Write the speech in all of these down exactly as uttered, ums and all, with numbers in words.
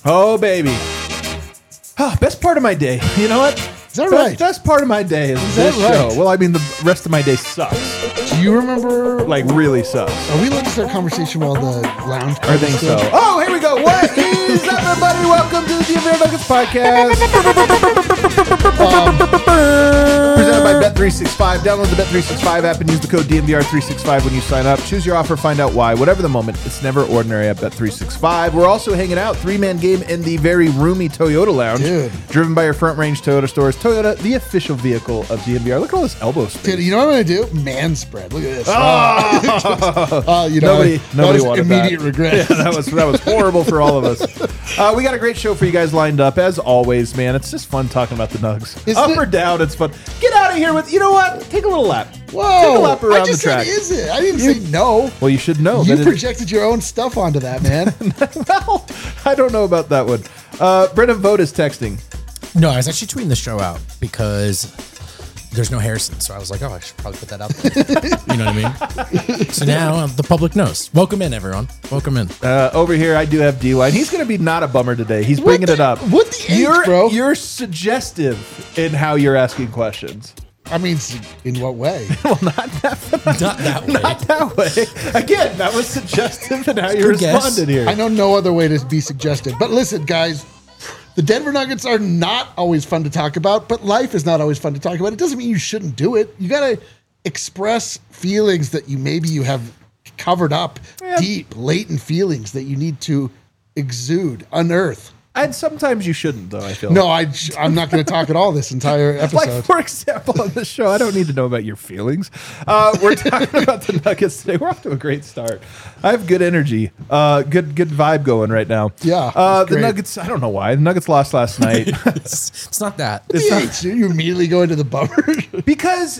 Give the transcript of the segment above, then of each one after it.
Oh, baby. Oh, best part of my day. You know what? Is that best, right? Best part of my day is, Is this that right? show. Well, I mean, the rest of my day sucks. Do you remember? Like, really sucks. Are we allowed to start conversation while the lounge? I think so. Oh, here we go. What is up, everybody? Welcome to the D M V R Nuggets podcast. Um, presented by Bet three sixty-five. Download the Bet three sixty-five app and use the code D M V R three sixty-five when you sign up. Choose your offer, find out why. Whatever the moment, it's never ordinary at Bet three sixty-five. We're also hanging out, three-man game in the very roomy Toyota lounge. Dude. Driven by your front-range Toyota stores. Toyota, the official vehicle of D M V R. Look at all this elbow space. Dude, you know what I'm going to do? Man spread. Look at this. Oh! Uh, you know, nobody, that nobody was wanted immediate that. regret. Yeah, that was that was horrible for all of us. Uh, we got a great show for you guys lined up as always, man. It's just fun talking about the Nugs. Isn't Up it? or down, it's fun. Get out of here with you know what? Take a little lap. Whoa! Take a lap around I just the track. said, is it? I didn't You- say no. Well, you should know. You that it- projected your own stuff onto that, man. well, I don't know about that one. Uh, Brennan Vogt is texting. No, I was actually tweeting the show out because there's no Harrison. So I was like, oh, I should probably put that out there. You know what I mean? So now uh, the public knows. Welcome in, everyone. Welcome in. Uh, over here, I do have D-Line. He's going to be not a bummer today. He's bringing the- it up. what the H, you're, bro? You're suggestive in how you're asking questions. I mean, in what way? Well, not that Not that way. Not that way. Again, that was suggestive in how you Good guess. responded here. I know no other way to be suggested. But listen, guys, the Denver Nuggets are not always fun to talk about, but life is not always fun to talk about. It doesn't mean you shouldn't do it. You got to express feelings that you maybe you have covered up, Yeah. deep, latent feelings that you need to exude, unearth. And sometimes you shouldn't, though, I feel. No, I, I'm not going to talk at all this entire Like, episode. for example, on this show, I don't need to know about your feelings. Uh, we're talking about the Nuggets today. We're off to a great start. I have good energy, uh, good good vibe going right now. Yeah, Uh, it's the great. Nuggets, I don't know why. The Nuggets lost last night. It's, it's not that. It's not- So you immediately go into the bummer. because,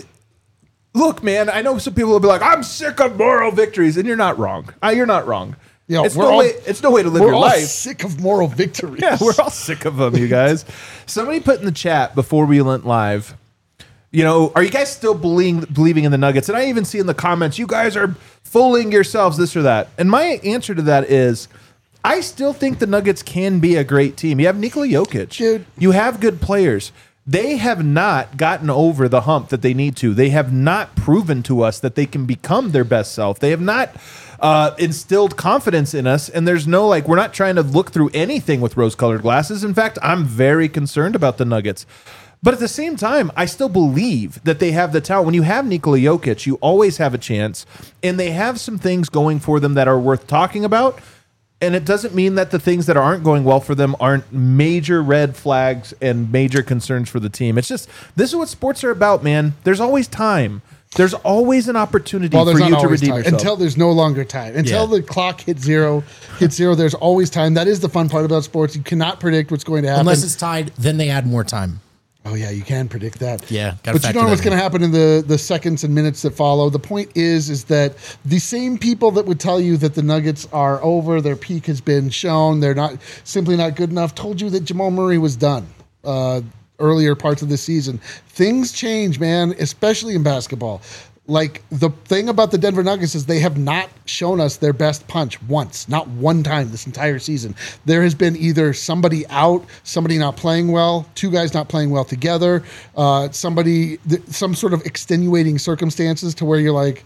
look, man, I know some people will be like, I'm sick of moral victories. And you're not wrong. Uh, you're not wrong. Yo, it's, we're no all- way, it's no way to live We're your all life. sick of moral victories. Yeah, we're all sick of them, you guys. Somebody put in the chat before we went live, you know, are you guys still believing, believing in the Nuggets? And I even see in the comments, you guys are fooling yourselves, this or that. And my answer to that is, I still think the Nuggets can be a great team. You have Nikola Jokic. Dude. You have good players. They have not gotten over the hump that they need to. They have not proven to us that they can become their best self. They have not uh, instilled confidence in us. And there's no, like, we're not trying to look through anything with rose-colored glasses. In fact, I'm very concerned about the Nuggets. But at the same time, I still believe that they have the talent. When you have Nikola Jokic, you always have a chance. And they have some things going for them that are worth talking about. And it doesn't mean that the things that aren't going well for them aren't major red flags and major concerns for the team. It's just, this is what sports are about, man. There's always time. There's always an opportunity Well, there's for not you to always redeem time. yourself. Until there's no longer time. Until Yeah. the clock hits zero, hits zero, there's always time. That is the fun part about sports. You cannot predict what's going to happen. Unless it's tied, then they add more time. oh, yeah, you can predict that. Yeah, gotta But you factor don't know that what's in. going to happen in the, the seconds and minutes that follow. The point is, is that the same people that would tell you that the Nuggets are over, their peak has been shown, they're not simply not good enough, told you that Jamal Murray was done uh, earlier parts of the season. Things change, man, especially in basketball. Like, the thing about the Denver Nuggets is they have not shown us their best punch once, not one time this entire season. There has been either somebody out, somebody not playing well, two guys not playing well together, uh, somebody, th- some sort of extenuating circumstances to where you're like,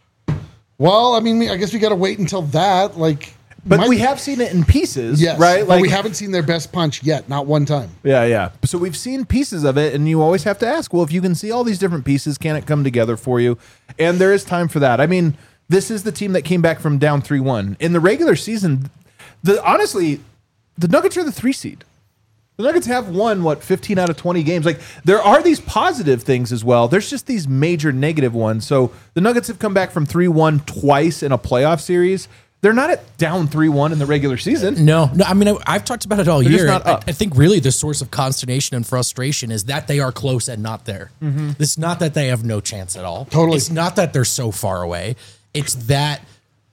well, I mean, I guess we got to wait until that. Like, but my- we have seen it in pieces, yes, right? Like, we haven't seen their best punch yet, not one time. Yeah, yeah. So we've seen pieces of it, and you always have to ask, well, if you can see all these different pieces, can it come together for you? And there is time for that. I mean, this is the team that came back from down three one. In the regular season, the honestly, the Nuggets are the three seed. The Nuggets have won, what, fifteen out of twenty games. Like, there are these positive things as well. There's just these major negative ones. So the Nuggets have come back from three one twice in a playoff series. They're not at down three one in the regular season. No, no. I mean, I, I've talked about it all They're just year. not I, up. I think really the source of consternation and frustration is that they are close and not there. It's not that they have no chance at all. Totally. It's not that they're so far away. It's that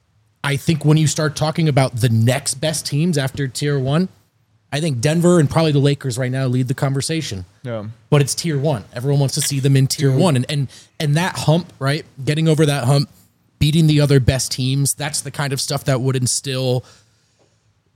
I think when you start talking about the next best teams after tier one, I think Denver and probably the Lakers right now lead the conversation. Yeah. But it's tier one. Everyone wants to see them in tier one. And and and that hump, right? Getting over that hump, beating the other best teams, that's the kind of stuff that would instill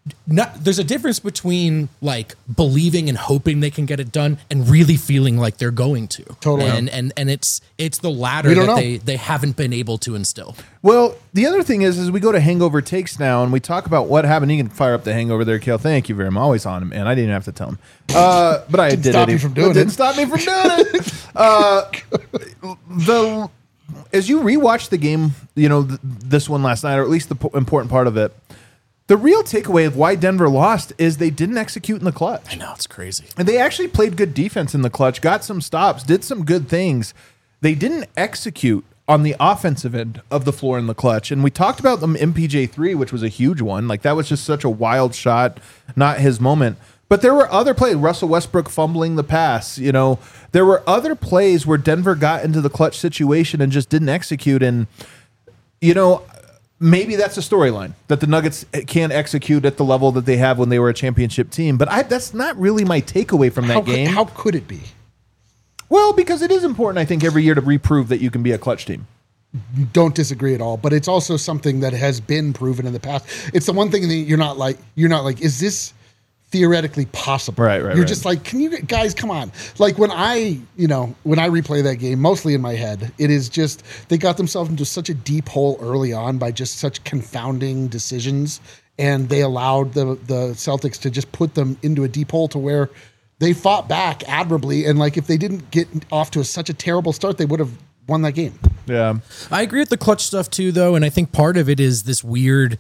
not, there's a difference between like believing and hoping they can get it done and really feeling like they're going to. Totally. And and and it's it's the latter We don't that know. they they haven't been able to instill. Well, the other thing is, is we go to Hangover Takes now, and we talk about what happened. You can fire up the Hangover there, Kale. Thank you very much. I'm always on him, man. I didn't even have to tell him. Uh, but I Didn't did stop it. you from doing it. Didn't it. stop me from doing it. Uh, the as you rewatch the game, you know th- this one last night, or at least the po- important part of it. The real takeaway of why Denver lost is they didn't execute in the clutch. I know, it's crazy. And they actually played good defense in the clutch, got some stops, did some good things. They didn't execute on the offensive end of the floor in the clutch. And we talked about them M P J three, which was a huge one. Like that was just such a wild shot, not his moment. But there were other plays, Russell Westbrook fumbling the pass, you know. There were other plays where Denver got into the clutch situation and just didn't execute. And, you know, maybe that's a storyline that the Nuggets can't execute at the level that they have when they were a championship team. But I, that's not really my takeaway from that How game. could, how could it be? Well, because it is important, I think, every year to reprove that you can be a clutch team. Don't disagree at all, but it's also something that has been proven in the past. It's the one thing that you're not like, you're not like, is this theoretically possible? Right, right, You're right. just like, can you guys come on? Like when I, you know, when I replay that game, mostly in my head, it is just they got themselves into such a deep hole early on by just such confounding decisions, and they allowed the the Celtics to just put them into a deep hole to where they fought back admirably, and like if they didn't get off to a, such a terrible start, they would have won that game. Yeah. I agree with the clutch stuff too, though, and I think part of it is this weird.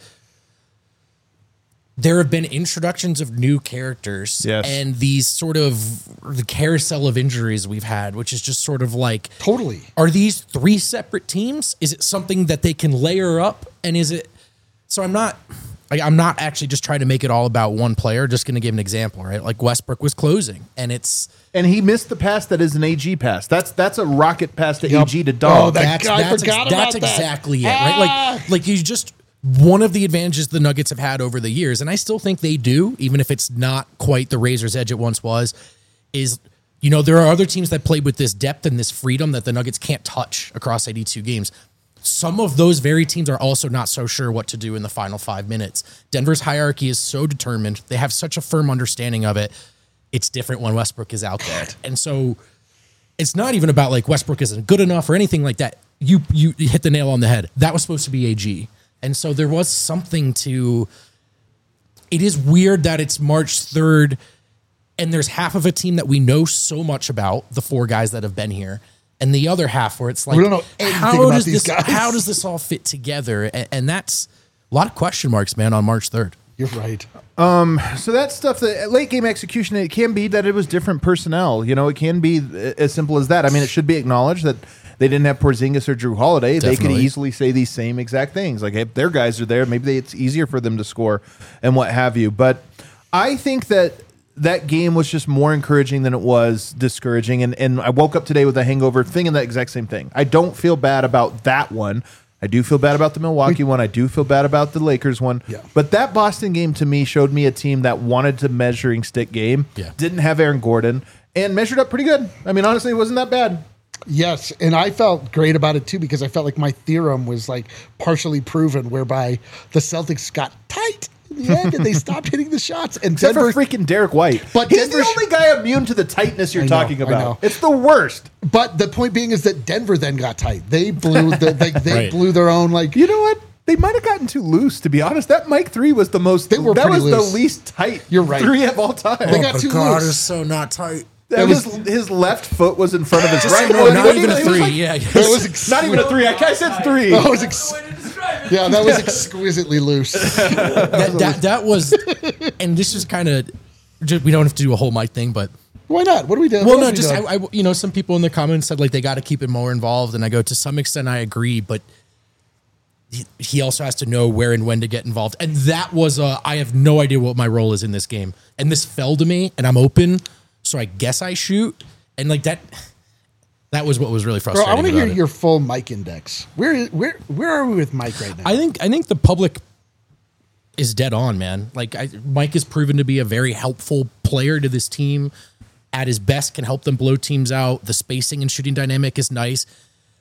There have been introductions of new characters, Yes. and these sort of the carousel of injuries we've had, which is just sort of like, Totally. are these three separate teams? Is it something that they can layer up, and is it? So I'm not. Like, I'm not actually just trying to make it all about one player. Just going to give an example, right? Like Westbrook was closing, and it's. And he missed the pass that is an A G pass. That's that's a rocket pass to Yep. A G to Oh, dog. that that's guy that's, forgot that's about that. exactly it, right? Ah! Like, like you just one of the advantages the Nuggets have had over the years, and I still think they do, even if it's not quite the razor's edge it once was, is you know there are other teams that played with this depth and this freedom that the Nuggets can't touch across eighty-two games. Some of those very teams are also not so sure what to do in the final five minutes. Denver's hierarchy is so determined; they have such a firm understanding of it. It's different when Westbrook is out there, and so. It's not even about like Westbrook isn't good enough or anything like that. You you hit the nail on the head. That was supposed to be A G. And so there was something to it is weird that it's March third and there's half of a team that we know so much about, the four guys that have been here, and the other half where it's like We don't know anything how about does these this guys. how does this all fit together? And, and that's a lot of question marks, man, on March third. You're right. So that stuff, the late game execution, it can be that it was different personnel. You know, it can be as simple as that. I mean, it should be acknowledged that they didn't have Porzingis or Drew Holiday. They could Definitely. easily say these same exact things. Like, if their guys are there, maybe they, it's easier for them to score and what have you. But I think that that game was just more encouraging than it was discouraging. And, and I woke up today with a hangover thinking that exact same thing. I don't feel bad about that one. I do feel bad about the Milwaukee one. I do feel bad about the Lakers one. Yeah. But that Boston game to me showed me a team that wanted to measuring stick game. Yeah. Didn't have Aaron Gordon and measured up pretty good. I mean, honestly, it wasn't that bad. Yes, and I felt great about it too because I felt like my theorem was like partially proven, whereby the Celtics got tight in the end and they stopped hitting the shots. And Except Denver, for freaking Derek White. But he's Denver- the only guy immune to the tightness you're I know, talking I about. know. It's the worst. but the point being is that Denver then got tight. They blew the they, they Right. blew their own like. You know what? They might have gotten too loose, to be honest. That Mike three was the most. They were that pretty was loose. the least tight. You're right. Three of all time. They got too loose. is so not tight. That it was, was- his left foot was in front of his Just right. no, foot. not It even a was three. like- yeah, That was ex- Not even a three. I I said three. that was ex- yeah, that was exquisitely loose. that, that that was, and this is kind of, we don't have to do a whole mic thing, but Why not? What do we do? well, What no, else we just done? I, I, you know, some people in the comments said like they got to keep it more involved, and I go to some extent I agree, but he, he also has to know where and when to get involved, and that was a I have no idea what my role is in this game, and this fell to me, and I'm open, so I guess I shoot, and like that. That was what was really Bro, frustrating. I want to hear about it. your full mic index. Where where where are we with Mike right now? I think I think the public is dead on, man. Like I, Mike has proven to be a very helpful player to this team. At his best, can help them blow teams out. The spacing and shooting dynamic is nice.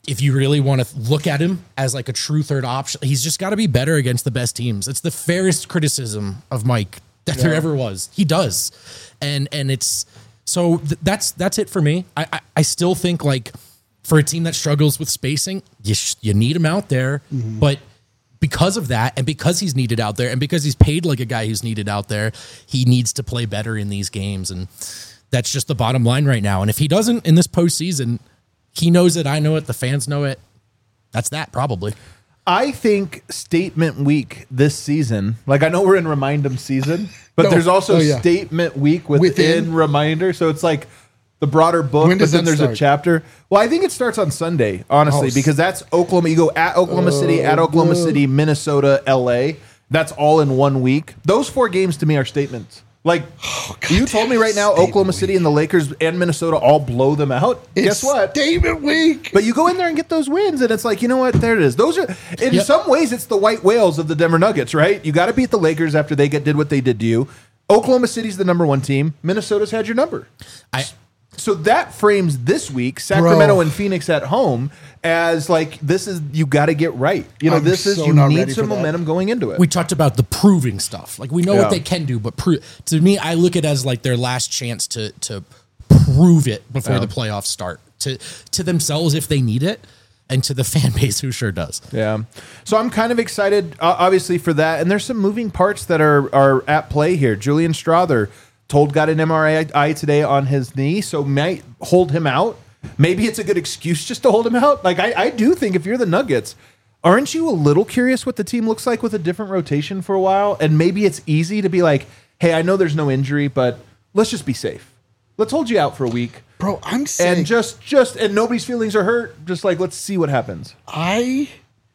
if you really want to look at him as like a true third option, he's just got to be better against the best teams. It's the fairest criticism of Mike that yeah. there ever was. He does. And and it's so th- that's that's it for me. I, I I still think like for a team that struggles with spacing, you sh- you need him out there, mm-hmm. but because of that, and because he's needed out there, and because he's paid like a guy who's needed out there, he needs to play better in these games, and that's just the bottom line right now. And if he doesn't in this postseason, he knows it, I know it, the fans know it. That's that, probably. I think statement week this season, like I know we're in Remind 'em season, but no. there's also oh, yeah. statement week within, within Reminder. So it's like the broader book, when but then there's start? a chapter. Well, I think it starts on Sunday, honestly, oh, because that's Oklahoma. You go at Oklahoma oh, City, at Oklahoma good. City, Minnesota, L A. That's all in one week. Those four games to me are statements. Like, oh, you told me right now, Oklahoma City week. and the Lakers and Minnesota all blow them out. It's Guess what? Statement week. But you go in there and get those wins, and it's like, you know what? There it is. Those are, in yep. some ways, it's the white whales of the Denver Nuggets, right? You got to beat the Lakers after they get did what they did to you. Oklahoma City's the number one team. Minnesota's had your number. I. So that frames this week, Sacramento Bro. and Phoenix at home, as like, this is, you got to get right. You know, I'm this is, so you not need ready some for that. momentum going into it. We talked about the proving stuff. Like, we know Yeah. what they can do, but pro- to me, I look at it as like their last chance to to prove it before Yeah. the playoffs start to to themselves if they need it, and to the fan base who sure does. Yeah. So I'm kind of excited, uh, obviously, for that. And there's some moving parts that are are at play here. Julian Strother told got an M R I today on his knee, so might hold him out. Maybe it's a good excuse just to hold him out. Like, I, I do think if you're the Nuggets, aren't you a little curious what the team looks like with a different rotation for a while? And maybe it's easy to be like, hey, I know there's no injury, but let's just be safe. Let's hold you out for a week. Bro, I'm saying. And just, just, and nobody's feelings are hurt. Just like, let's see what happens. I.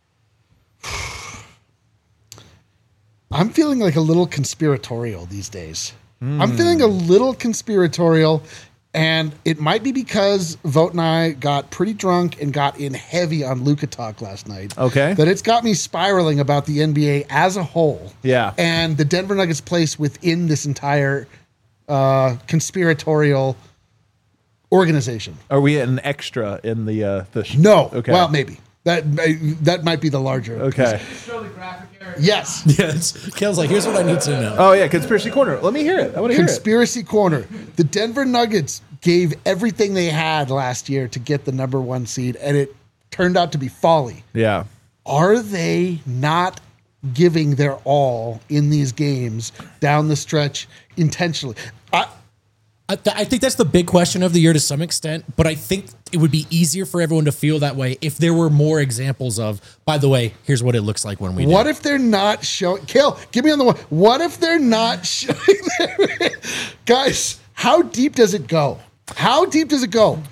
I'm feeling like a little conspiratorial these days. Mm. I'm feeling a little conspiratorial, and it might be because Vogt and I got pretty drunk and got in heavy on Luka talk last night. Okay. That it's got me spiraling about the N B A as a whole. Yeah. And the Denver Nuggets' place within this entire uh, conspiratorial organization. Are we an extra in the uh, the? Sh- No. Okay. Well, maybe that may, that might be the larger. Okay. Yes. Yes. Kale's like, here's what I need to know. Oh yeah, conspiracy corner. Let me hear it. I want to hear it. Conspiracy corner. The Denver Nuggets gave everything they had last year to get the number one seed, and it turned out to be folly. Yeah. Are they not giving their all in these games down the stretch intentionally? I, I, th- I think that's the big question of the year to some extent, but I think it would be easier for everyone to feel that way if there were more examples of, by the way, here's what it looks like when we What do. if they're not showing, Kale, give me on the one. What if they're not showing their, guys, how deep does it go? How deep does it go?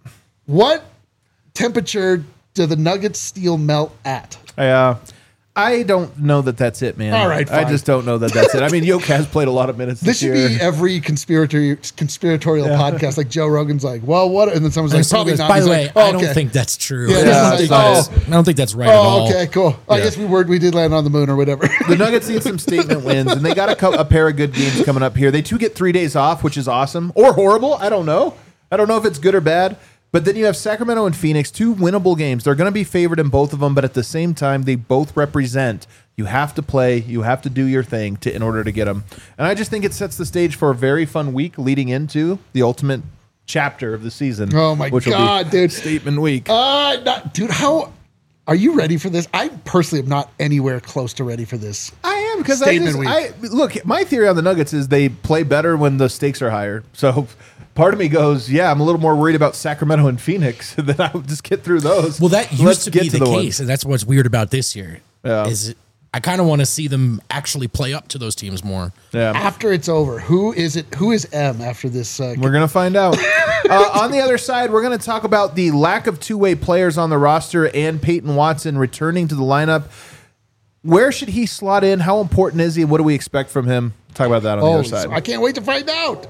What temperature do the Nuggets steel melt at? Yeah. I don't know that that's it, man. All right, I fine. just don't know that that's it. I mean, Yoke has played a lot of minutes This this, should year. be every conspiratorial conspiratorial Yeah. podcast. Like Joe Rogan's like, well, what? And then someone's And like, someone probably goes, not. By He's the way, like, oh, I don't okay. think that's true. Yeah, I, yeah, don't think oh. that is, I don't think that's right at Oh, all. okay, cool. I Yeah. guess we were we did land on the moon or whatever. The Nuggets need some statement wins, and they got a, co- a pair of good games coming up here. They too get three days off, which is awesome, or horrible. I don't know. I don't know if it's good or bad. But then you have Sacramento and Phoenix, two winnable games. They're going to be favored in both of them, but at the same time, they both represent you have to play, you have to do your thing to in order to get them. And I just think it sets the stage for a very fun week leading into the ultimate chapter of the season. Oh my which will God, be dude. Statement week. Uh, not, dude, how are you ready for this? I personally am not anywhere close to ready for this. I am because I, Statement just, week. I look. My theory on the Nuggets is they play better when the stakes are higher. So part of me goes, yeah, I'm a little more worried about Sacramento and Phoenix than I would just get through those. Well, that used Let's to get be to the, the case, ones. and that's what's weird about this year. Yeah. Is I kind of want to see them actually play up to those teams more. Yeah. After it's over, who is it? Who is M after this? Uh, We're gonna find out. uh, on the other side, we're gonna talk about the lack of two-way players on the roster and Peyton Watson returning to the lineup. Where should he slot in? How important is he? What do we expect from him? Talk about that on the oh, other side. I can't wait to find out.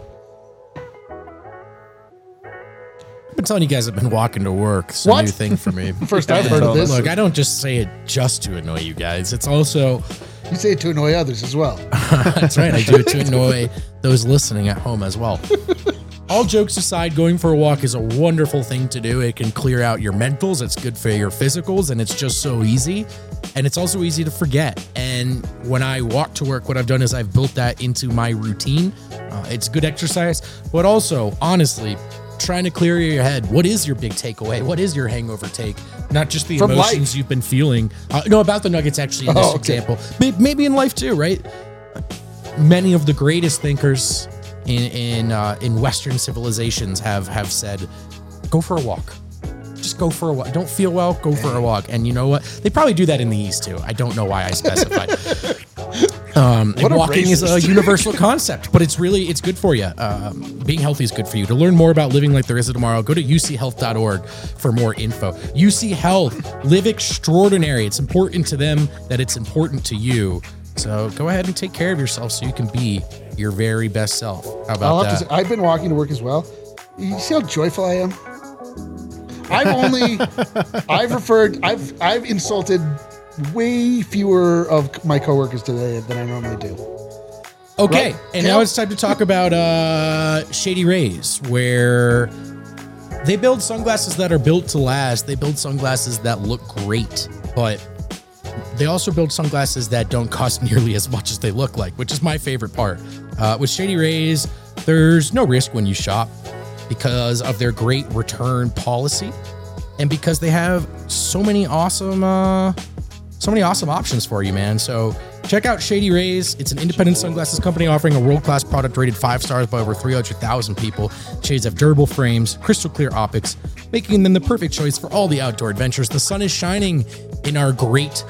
I've been telling you guys I've been walking to work. It's a What? new thing for me. First I've heard of this. Look, I don't just say it just to annoy you guys. It's also, You say it to annoy others as well. that's right, I do it to annoy those listening at home as well. all jokes aside, going for a walk is a wonderful thing to do. It can clear out your mentals. It's good for your physicals, and it's just so easy. And it's also easy to forget. And when I walk to work, what I've done is I've built that into my routine. Uh, it's good exercise, but also, honestly, trying to clear your head. What is your big takeaway? What is your hangover take? Not just the From emotions life. you've been feeling. Uh, no, about the Nuggets, actually, in this Oh, okay. example. May- Maybe in life too, right? Many of the greatest thinkers in in uh, in Western civilizations have have said, "Go for a walk. Just go for a walk. Don't feel well, go for a walk." And you know what? They probably do that in the East too. I don't know why I specified. um, and What a walking is a racist. universal concept, but it's really it's good for you. Um, being healthy is good for you. To learn more about living like there is a tomorrow, go to u c health dot org for more info. U C Health, live extraordinary. It's important to them that it's important to you. So go ahead and take care of yourself so you can be your very best self. How I'll about have to that? say, I've been walking to work as well. You see how joyful I am? I've only, I've referred, I've, I've insulted way fewer of my coworkers today than I normally do. Okay, Right. and Cal- now it's time to talk about uh, Shady Rays, where they build sunglasses that are built to last. They build sunglasses that look great, but they also build sunglasses that don't cost nearly as much as they look like, which is my favorite part. Uh, with Shady Rays, there's no risk when you shop because of their great return policy and because they have so many awesome, uh, so many awesome options for you, man. So check out Shady Rays. It's an independent sunglasses company offering a world-class product rated five stars by over three hundred thousand people. Shades have durable frames, crystal clear optics, making them the perfect choice for all the outdoor adventures. The sun is shining in our great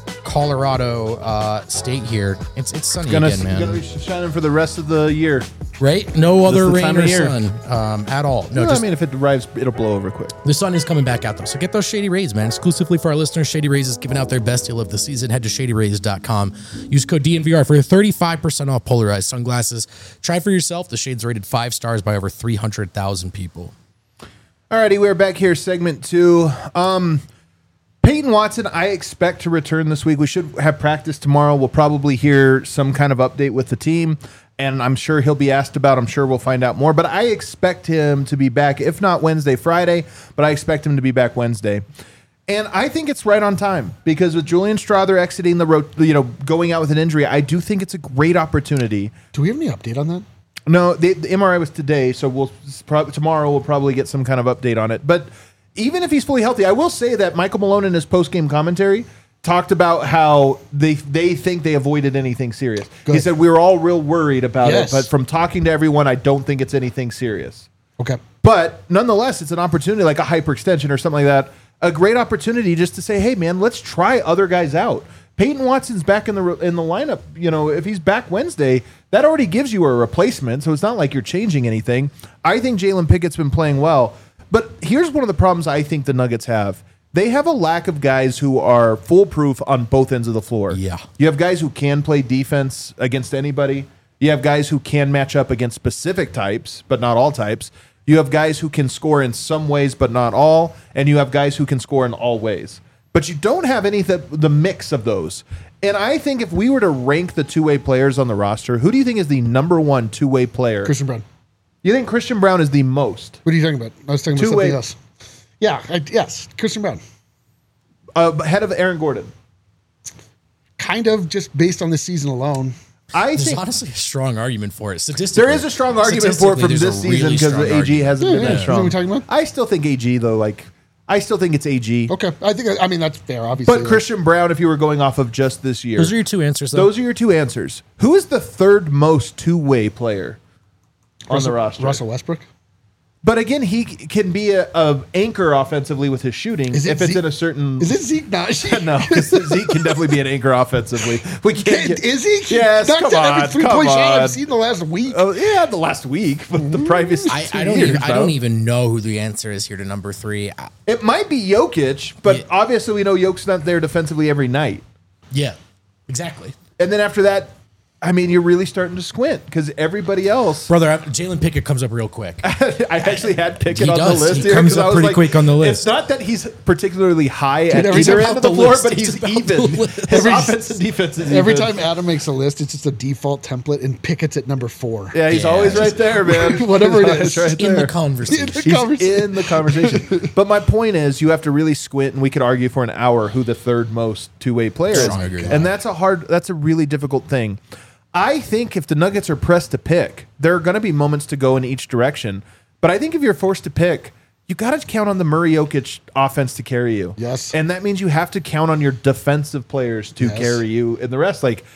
Colorado uh, state here. It's it's sunny Gonna, again, man. gonna be shining for the rest of the year. Right? No other the rain time or of year. sun um, at all. No, No, just I mean, if it arrives, it'll blow over quick. the sun is coming back out though. So get those Shady Rays, man. Exclusively for our listeners, Shady Rays is giving out their best deal of the season. Head to shady rays dot com. Use code D N V R for thirty-five percent off polarized sunglasses. Try for yourself. The shades rated five stars by over three hundred thousand people. Alrighty, we're back here, segment two. Um, Peyton Watson, I expect to return this week. We should have practice tomorrow. We'll probably hear some kind of update with the team, and I'm sure he'll be asked about. I'm sure we'll find out more, but I expect him to be back, if not Wednesday, Friday, but I expect him to be back Wednesday. And I think it's right on time because with Julian Strother exiting the road, you know, going out with an injury, I do think it's a great opportunity. Do we have any update on that? No, the, the M R I was today, so we'll prob- tomorrow we'll probably get some kind of update on it. But even if he's fully healthy, I will say that Michael Malone in his post-game commentary talked about how they they think they avoided anything serious. He Good. said we were all real worried about Yes. it, but from talking to everyone, I don't think it's anything serious. Okay. But nonetheless, it's an opportunity, like a hyperextension or something like that. A great opportunity just to say, hey man, let's try other guys out. Peyton Watson's back in the in the lineup. You know, if he's back Wednesday, that already gives you a replacement. So it's not like you're changing anything. I think Jalen Pickett's been playing well. But here's one of the problems I think the Nuggets have. They have a lack of guys who are foolproof on both ends of the floor. Yeah. You have guys who can play defense against anybody. You have guys who can match up against specific types, but not all types. You have guys who can score in some ways, but not all. And you have guys who can score in all ways. But you don't have any of the, the mix of those. And I think if we were to rank the two-way players on the roster, who do you think is the number one two-way player? Christian Brown. You think Christian Brown is the most? What are you talking about? I was talking about Two-way- something else. Yeah, I, yes, Christian Brown. Uh, ahead of Aaron Gordon. Kind of just based on the season alone. I There's think honestly a strong argument for it. Statistically, there is a strong argument for it from statistically, this there's a season really because strong the A G argument. hasn't Yeah, been yeah. that Is that strong. what we're talking about? I still think A G though. Like, I still think it's A G. Okay, I think I mean that's fair. Obviously, But Christian Brown, if you were going off of just this year, Those are your two answers, though. those are your two answers. Who is the third most two-way player on Russell, the roster? Russell Westbrook. But again, he c- can be a, a anchor offensively with his shooting Is it if it's Zeke? in a certain. Is it Zeke Naji? No, because Zeke can definitely be an anchor offensively. We can't. Get, Is he? Yes, Knocked come down on, every three-point come shot on. I've seen the last week. Oh yeah, the last week, but the previous I, two I don't. years, Even, I though. don't even know who the answer is here to number three. I, It might be Jokic, but Yeah. obviously we know Jokic's not there defensively every night. yeah, exactly. And then after that, I mean, you're really starting to squint because everybody else. Brother, I- Jalen Pickett comes up real quick. I actually had Pickett He on does. the list He here. comes 'cause I up was pretty like, quick on the list. It's not that he's particularly high at every either time end of about the the floor, list, but it's he's about even. the list. His Every- offense and defense is Every even. time Adam makes a list, it's just a default template, and Pickett's at number four. Yeah, he's Yeah, always just- right there, man. Whatever it He's is. always right In the there. conversation. The He's conversation. in the conversation. But my point is, you have to really squint, and we could argue for an hour who the third most two-way player is. I agree. And that's a hard, that's a really difficult thing. I think if the Nuggets are pressed to pick, there are going to be moments to go in each direction. But I think if you're forced to pick, you got to count on the Murray Jokic offense to carry you. Yes. And that means you have to count on your defensive players to Yes. carry you and the rest. Like,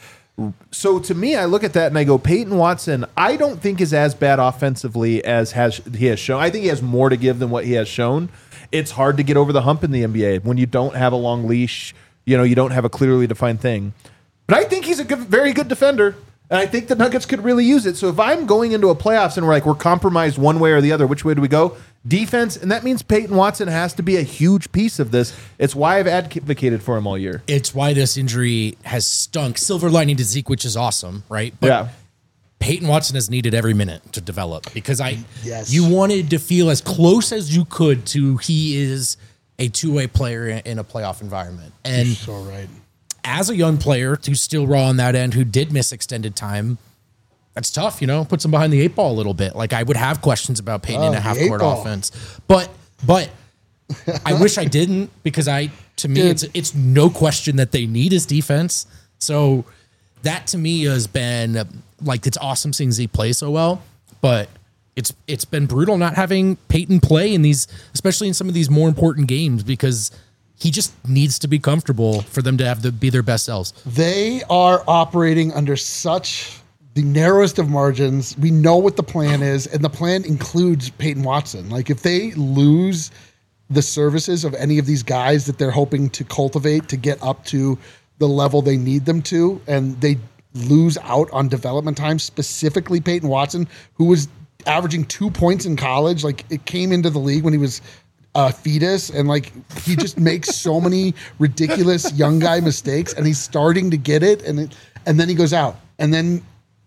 so to me, I look at that and I go, Peyton Watson, I don't think is as bad offensively as has he has shown. I think he has more to give than what he has shown. It's hard to get over the hump in the N B A when you don't have a long leash. You know, you don't have a clearly defined thing. But I think he's a good, very good defender. And I think the Nuggets could really use it. So if I'm going into a playoffs and we're like, we're compromised one way or the other, which way do we go? Defense. And that means Peyton Watson has to be a huge piece of this. It's why I've advocated for him all year. It's why this injury has stunk. Silver lining to Zeke, which is awesome, right? But Yeah. Peyton Watson has needed every minute to develop because I, Yes. you wanted to feel as close as you could to he is a two-way player in, in a playoff environment. And So right. as a young player who's still raw on that end, who did miss extended time, that's tough, you know, puts him behind the eight ball a little bit. Like I would have questions about Peyton Oh, in a the half eight court ball. offense, but, but I wish I didn't because I, to me, Dude. it's, it's no question that they need his defense. So that to me has been uh, like, it's awesome seeing Z play so well, but it's, it's been brutal not having Peyton play in these, especially in some of these more important games, because he just needs to be comfortable for them to have to be their best selves. They are operating under such the narrowest of margins. We know what the plan is, and the plan includes Peyton Watson. Like if they lose the services of any of these guys that they're hoping to cultivate to get up to the level they need them to, and they lose out on development time, specifically Peyton Watson, who was averaging two points in college. Like it came into the league when he was a fetus, and like he just makes so many ridiculous young guy mistakes, and he's starting to get it, and it, and then he goes out, and then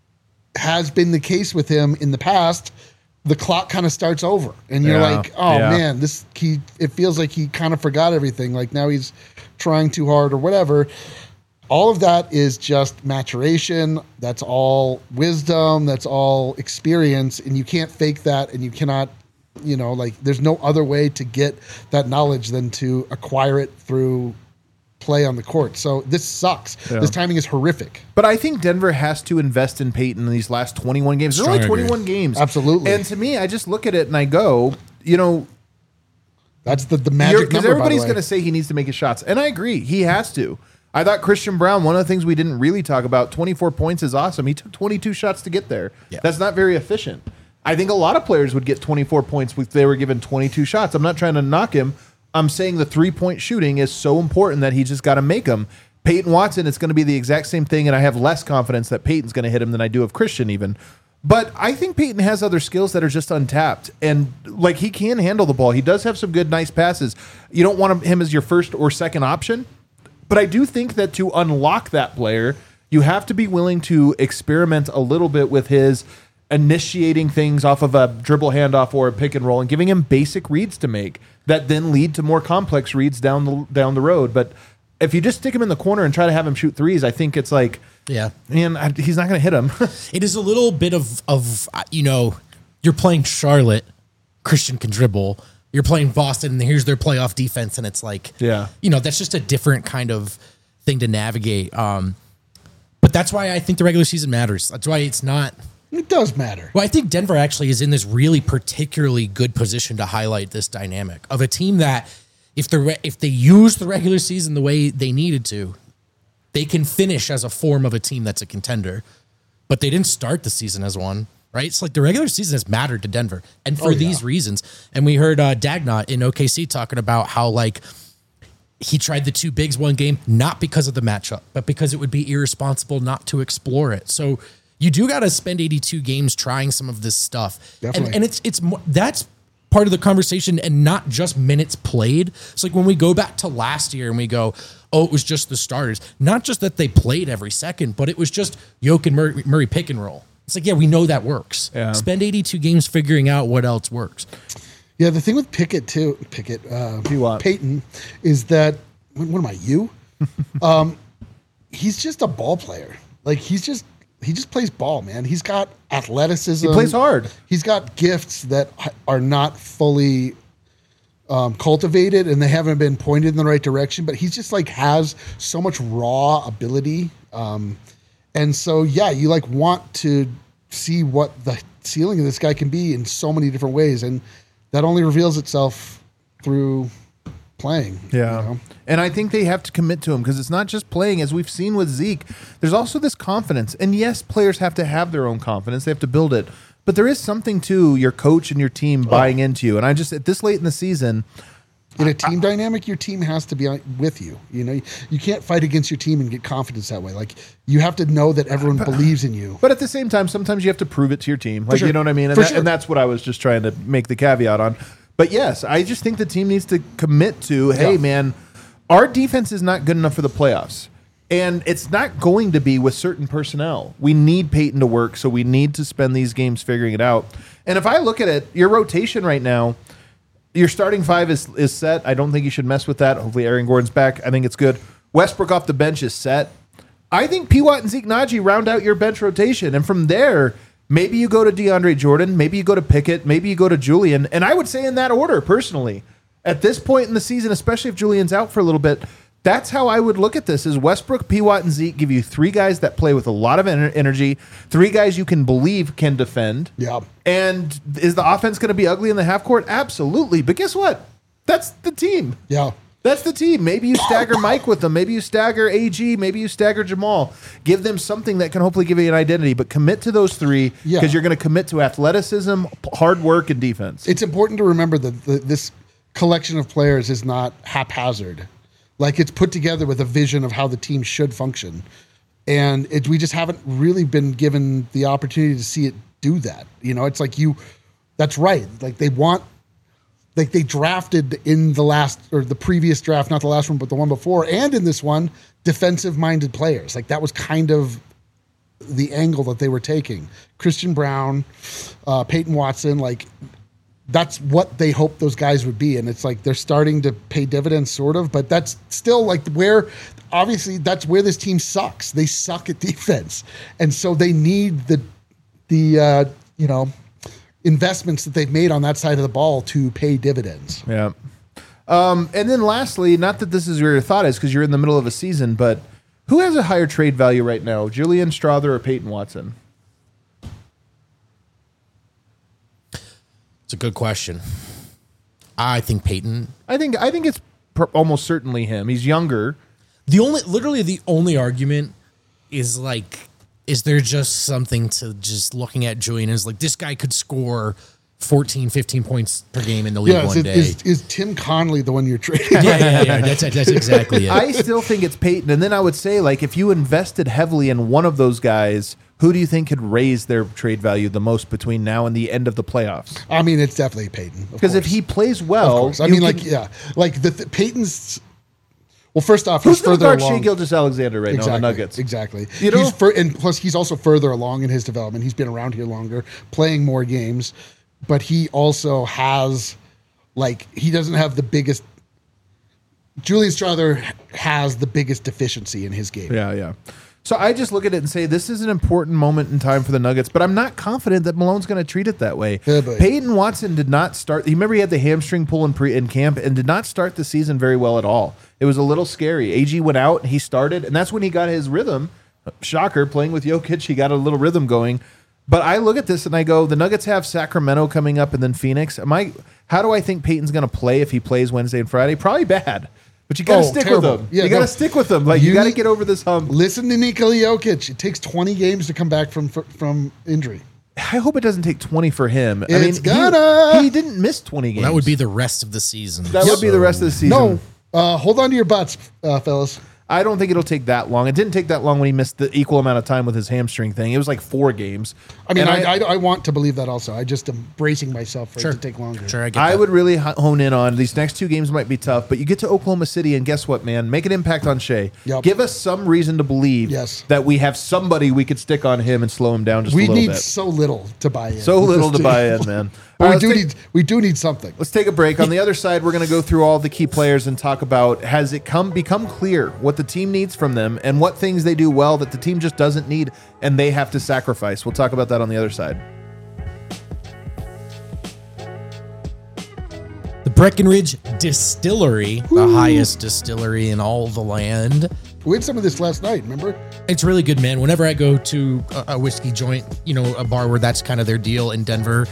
has been the case with him in the past. The clock kind of starts over, and you're Yeah, like, oh yeah. man, this he. It feels like he kind of forgot everything. Like now he's trying too hard or whatever. All of that is just maturation. That's all wisdom. That's all experience, and you can't fake that, and you cannot. You know, like there's no other way to get that knowledge than to acquire it through play on the court. So this sucks. Yeah. This timing is horrific. But I think Denver has to invest in Peyton in these last twenty-one games. There's Strong only agree. twenty-one games. Absolutely. And to me, I just look at it and I go, you know, That's the, the magic because number. everybody's by the going way. to say he needs to make his shots. And I agree. He has to. I thought Christian Brown, one of the things we didn't really talk about, twenty-four points is awesome. He took twenty-two shots to get there. Yeah. That's not very efficient. I think a lot of players would get twenty-four points if they were given twenty-two shots. I'm not trying to knock him. I'm saying the three-point shooting is so important that he just got to make them. Peyton Watson, it's going to be the exact same thing, and I have less confidence that Peyton's going to hit him than I do of Christian even. But I think Peyton has other skills that are just untapped, and like he can handle the ball. He does have some good, nice passes. You don't want him as your first or second option, but I do think that to unlock that player, you have to be willing to experiment a little bit with his initiating things off of a dribble handoff or a pick and roll and giving him basic reads to make that then lead to more complex reads down the down the road. But if you just stick him in the corner and try to have him shoot threes, I think it's like, Yeah. man, I, he's not going to hit him. It is a little bit of, of, uh, you know, you're playing Charlotte, Christian can dribble. You're playing Boston, and here's their playoff defense, and it's like, Yeah. you know, that's just a different kind of thing to navigate. Um, but that's why I think the regular season matters. That's why it's not. It does matter. Well, I think Denver actually is in this really particularly good position to highlight this dynamic of a team that if the if they use the regular season the way they needed to, they can finish as a form of a team that's a contender. But they didn't start the season as one, right? It's like the regular season has mattered to Denver, and for Oh, yeah. these reasons. And we heard uh, Dagnott in O K C talking about how like he tried the two bigs one game, not because of the matchup, but because it would be irresponsible not to explore it. So you do got to spend eighty-two games trying some of this stuff. Definitely. And, and it's, it's more, that's part of the conversation and not just minutes played. It's like when we go back to last year and we go, oh, it was just the starters. Not just that they played every second, but it was just Jokic and Murray, Murray pick and roll. It's like, yeah, we know that works. Yeah. Spend eighty-two games figuring out what else works. Yeah, the thing with Pickett too, Pickett, uh, P-Watt. Peyton, is that what, what am I? You? um, he's just a ball player. Like he's just he just plays ball, man. He's got athleticism. He plays hard. He's got gifts that are not fully um, cultivated, and they haven't been pointed in the right direction. But he's just like has so much raw ability, um, and so yeah, you like want to see what the ceiling of this guy can be in so many different ways, and that only reveals itself through playing. Yeah. You know? And I think they have to commit to him because it's not just playing. As we've seen with Zeke, there's also this confidence. And yes, players have to have their own confidence. They have to build it. But there is something to your coach and your team buying oh. into you. And I just, at this late in the season, in a team I, dynamic, your team has to be with you. You know, you can't fight against your team and get confidence that way. Like you have to know that everyone but, believes in you. But at the same time, sometimes you have to prove it to your team. Like, sure. you know what I mean? And, For that, sure. and that's what I was just trying to make the caveat on. But yes, I just think the team needs to commit to, hey, yeah. man, our defense is not good enough for the playoffs. And it's not going to be with certain personnel. We need Peyton to work, so we need to spend these games figuring it out. And if I look at it, your rotation right now, your starting five is, is set. I don't think you should mess with that. Hopefully Aaron Gordon's back. I think it's good. Westbrook off the bench is set. I think P-Watt and Zeke Naji round out your bench rotation. And from there, maybe you go to DeAndre Jordan, maybe you go to Pickett, maybe you go to Julian. And I would say in that order, personally. At this point in the season, especially if Julian's out for a little bit, that's how I would look at this is Westbrook, P-Watt, and Zeke give you three guys that play with a lot of ener- energy, three guys you can believe can defend. Yeah. And is the offense going to be ugly in the half court? Absolutely. But guess what? That's the team. Yeah. That's the team. Maybe you stagger Mike with them. Maybe you stagger A G. Maybe you stagger Jamal. Give them something that can hopefully give you an identity, but commit to those three because Yeah. you're going to commit to athleticism, hard work, and defense. It's important to remember that the, this collection of players is not haphazard. Like it's put together with a vision of how the team should function. And it, we just haven't really been given the opportunity to see it do that. You know, it's like you, that's right. Like they want, like they drafted in the last or the previous draft, not the last one, but the one before, and in this one, defensive minded players. Like that was kind of the angle that they were taking. Christian Brown, uh, Peyton Watson, like that's what they hoped those guys would be. And it's like they're starting to pay dividends sort of, but that's still like where obviously that's where this team sucks. They suck at defense. And so they need the, the, uh, you know, investments that they've made on that side of the ball to pay dividends. Yeah. Um, and then lastly, not that this is where your thought is because you're in the middle of a season, but who has a higher trade value right now, Julian Strawther or Peyton Watson? It's a good question. I think Peyton. I think I think it's pr- almost certainly him. He's younger. The only, literally the only argument is like, is there just something to just looking at Julian is like, this guy could score fourteen, fifteen points per game in the league yeah, one is, day. Is, is Tim Conley the one you're trading? yeah, yeah, yeah. That's, that's exactly it. I still think it's Peyton. And then I would say, like, if you invested heavily in one of those guys, who do you think could raise their trade value the most between now and the end of the playoffs? I mean, it's definitely Peyton. Because if he plays well, I mean, like, yeah, like the, the Peyton's. Well, first off, who's he's further guard along. Shai Gilgeous-Alexander right exactly, now in the Nuggets? Exactly. You know? He's fur- and plus, he's also further along in his development. He's been around here longer, playing more games, but he also has, like, he doesn't have the biggest. Julian Strawther has the biggest deficiency in his game. Yeah, yeah. So I just look at it and say this is an important moment in time for the Nuggets, but I'm not confident that Malone's going to treat it that way. Yeah, but- Peyton Watson did not start. You remember he had the hamstring pull in pre in camp and did not start the season very well at all. It was a little scary. A G went out and he started, and that's when he got his rhythm. Shocker, playing with Jokic, he got a little rhythm going. But I look at this and I go, the Nuggets have Sacramento coming up and then Phoenix. Am I? How do I think Peyton's going to play if he plays Wednesday and Friday? Probably bad. But you got to Oh, stick terrible. with him. Yeah, you got to no. stick with him. Like you, You got to need- get over this hump. Listen to Nikola Jokic. It takes twenty games to come back from from injury. I hope it doesn't take twenty for him. I It's mean, gonna. He, he didn't miss twenty games. That would be the rest of the season. that would be the rest of the season. No, uh, hold on to your butts, uh, fellas. I don't think it'll take that long. It didn't take that long when he missed the equal amount of time with his hamstring thing. It was like four games. I mean, And I, I, I want to believe that also. I just am bracing myself for Sure. it to take longer. Sure, I get I that. would really h- hone in on these next two games might be tough, but you get to Oklahoma City and guess what, man? Make an impact on Shea. Yep. Give us some reason to believe Yes. that we have somebody we could stick on him and slow him down just We a little need bit. so little to buy in. So with little this to team. buy in, man. But All we right, do let's take- need we do need something. Let's take a break. On the other side, we're going to go through all the key players and talk about has it come become clear what the team needs from them and what things they do well that the team just doesn't need and they have to sacrifice. We'll talk about that on the other side. The Breckenridge Distillery, the highest distillery in all the land. We had some of this last night. Remember? It's really good, man. Whenever I go to a, a whiskey joint, you know, a bar where that's kind of their deal in Denver,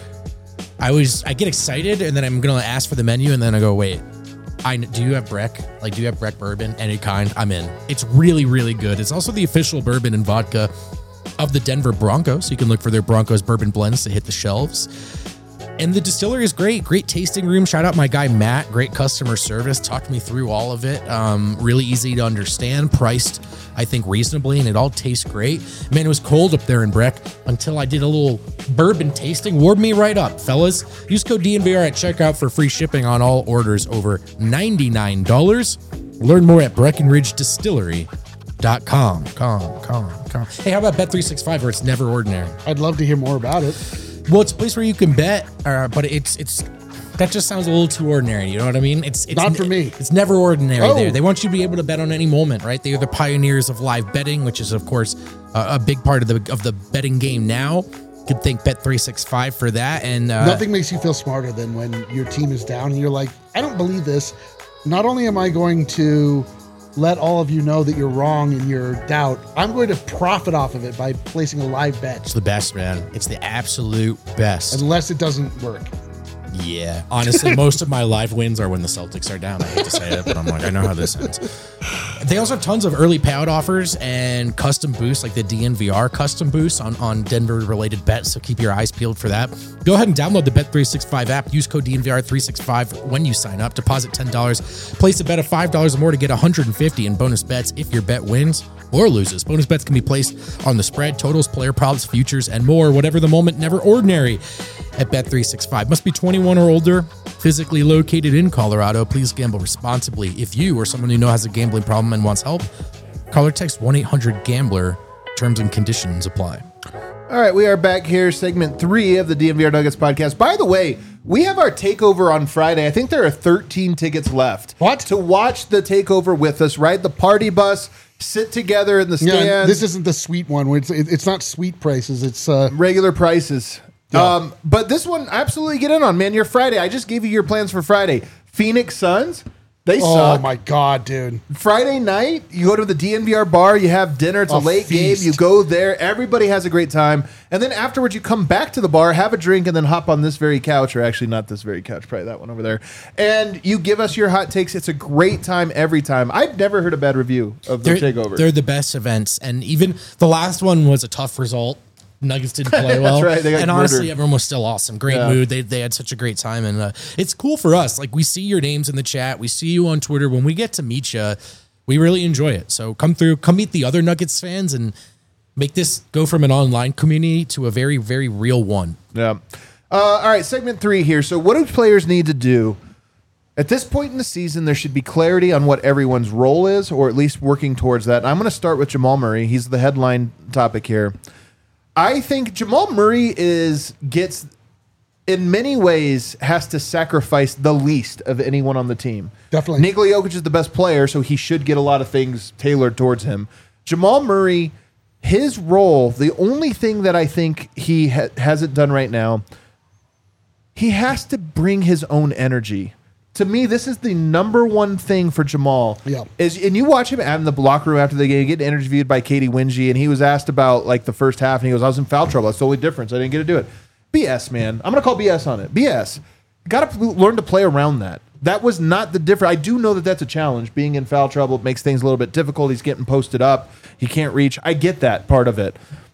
I always I get excited and then I'm gonna ask for the menu and then I go, wait, I do you have Breck? Like, do you have Breck bourbon? Any kind? I'm in. It's really, really good. It's also the official bourbon and vodka of the Denver Broncos. So you can look for their Broncos bourbon blends to hit the shelves. And the distillery is great. Great tasting room. Shout out my guy, Matt. Great customer service. Talked me through all of it. Um, really easy to understand. Priced, I think, reasonably. And it all tastes great. Man, it was cold up there in Breck until I did a little bourbon tasting. Warmed me right up, fellas. Use code D N V R at checkout for free shipping on all orders over ninety-nine dollars. Learn more at Breckenridge Distillery dot com. Com, com, com. Hey, how about Bet three sixty-five where it's never ordinary? I'd love to hear more about it. Well, it's a place where you can bet, uh, but it's it's that just sounds a little too ordinary. You know what I mean? It's, it's Not for me. It's never ordinary Oh. there. They want you to be able to bet on any moment, right? They are the pioneers of live betting, which is of course uh, a big part of the of the betting game now. Could thank Bet three sixty-five for that. And uh, Nothing makes you feel smarter than when your team is down and you're like, I don't believe this. Not only am I going to let all of you know that you're wrong in your doubt, I'm going to profit off of it by placing a live bet, it's the best, man. It's the absolute best. unless it doesn't work. Yeah, honestly, most of my live wins are when the Celtics are down. I hate to say it, but I'm like, I know how this ends. They also have tons of early payout offers and custom boosts, like the D N V R custom boosts on, on Denver-related bets, so keep your eyes peeled for that. Go ahead and download the Bet three sixty-five app. Use code D N V R three sixty-five when you sign up. Deposit ten dollars. Place a bet of five dollars or more to get one hundred fifty dollars in bonus bets if your bet wins or loses. Bonus bets can be placed on the spread, totals, player props, futures, and more. Whatever the moment, never ordinary at Bet three sixty-five. Must be twenty-one or older, physically located in Colorado. Please gamble responsibly. If you or someone you know has a gambling problem and wants help, call or text one eight hundred gambler. Terms and conditions apply. All right, we are back here, segment three of the D N V R Nuggets podcast. By the way, we have our takeover on Friday. I think there are thirteen tickets left. What? To watch the takeover with us, ride the party bus, sit together in the stands. Yeah, this isn't the sweet one. Where it's it, it's not sweet prices. It's uh, regular prices. Yeah. Um, but this one, absolutely get in on, man. Your Friday. I just gave you your plans for Friday. Phoenix Suns, they oh suck. my god, dude. Friday night, you go to the D N V R bar, you have dinner, it's a, A late feast. game, you go there, everybody has a great time, and then afterwards you come back to the bar, have a drink, and then hop on this very couch, or actually not this very couch, probably that one over there, and you give us your hot takes. It's a great time every time. I've never heard a bad review of the They're, takeover. they're the best events, and even the last one was a tough result. Nuggets didn't play well. right, they got and honestly, murdered. everyone was still awesome. Great Yeah. mood. They, they had such a great time. And uh, it's cool for us. Like, we see your names in the chat. We see you on Twitter. When we get to meet you, we really enjoy it. So come through, come meet the other Nuggets fans and make this go from an online community to a very, very real one. Yeah. Uh, all right, segment three here. So what do players need to do? At this point in the season, there should be clarity on what everyone's role is, or at least working towards that. And I'm going to start with Jamal Murray. He's the headline topic here. I think Jamal Murray is gets, in many ways, has to sacrifice the least of anyone on the team. Definitely. Nikola Jokic is the best player, so he should get a lot of things tailored towards him. Jamal Murray, his role, the only thing that I think he ha- hasn't done right now, he has to bring his own energy. To me, this is the number one thing for Jamal. Yeah. Is and you watch him in the locker room after the game, getting interviewed by Katie Wingy, and he was asked about like the first half, and he goes, "I was in foul trouble. That's the only difference. I didn't get to do it." B S, man. I'm gonna call B S on it. B S. Got to learn to play around that. That was not the difference. I do know that that's a challenge. Being in foul trouble makes things a little bit difficult. He's getting posted up. He can't reach. I get that part of it.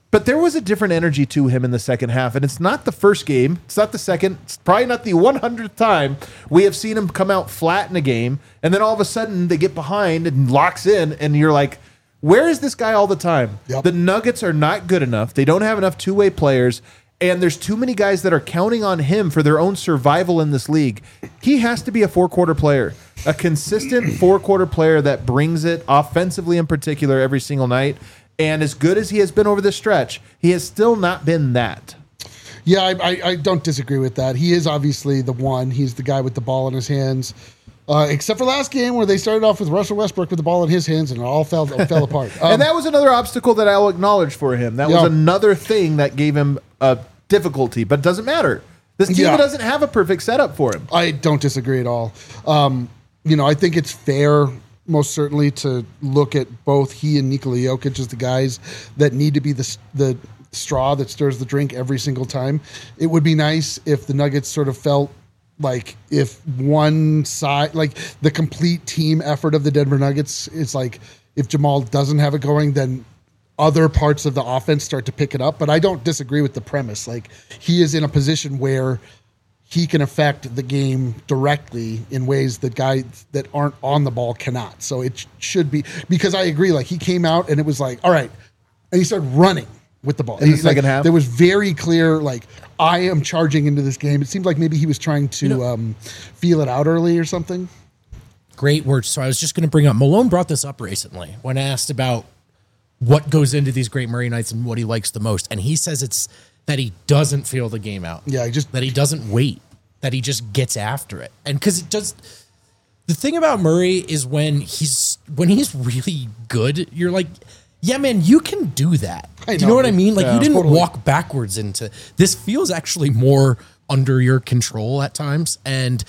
But there was a different energy to him in the second half, and it's not the first game. It's not the second. It's probably not the one hundredth time we have seen him come out flat in a game, and then all of a sudden they get behind and locks in, and you're like, where is this guy all the time? Yep. The Nuggets are not good enough. They don't have enough two-way players, and there's too many guys that are counting on him for their own survival in this league. He has to be a four-quarter player, a consistent four-quarter player that brings it, offensively in particular, every single night. And as good as he has been over this stretch, he has still not been that. Yeah, I, I, I don't disagree with that. He is obviously the one. He's the guy with the ball in his hands. Uh, except for last game where they started off with Russell Westbrook with the ball in his hands and it all fell fell apart. Um, and that was another obstacle that I'll acknowledge for him. That yeah. was another thing that gave him a difficulty, but it doesn't matter. This team Yeah. doesn't have a perfect setup for him. I don't disagree at all. Um, you know, I think it's fair, most certainly, to look at both he and Nikola Jokic as the guys that need to be the the straw that stirs the drink every single time. It would be nice if the Nuggets sort of felt like if one side, like the complete team effort of the Denver Nuggets is like if Jamal doesn't have it going, then other parts of the offense start to pick it up. But I don't disagree with the premise. Like he is in a position where he can affect the game directly in ways that guys that aren't on the ball cannot. So it sh- should be, because I agree, like he came out and it was like, all right. And he started running with the ball. In the He, second like, half? There was very clear, like, I am charging into this game. It seemed like maybe he was trying to You know- um, feel it out early or something. Great words. So I was just going to bring up, Malone brought this up recently when asked about what goes into these great Murray nights and what he likes the most. And he says it's that he doesn't feel the game out. Yeah, he just- that he doesn't wait, that he just gets after it. And because it does, the thing about Murray is when he's when he's really good, you're like, yeah, man, you can do that. I do you know, know what I dude. mean? Like Yeah, you didn't totally. walk backwards into this. Feels actually more under your control at times, and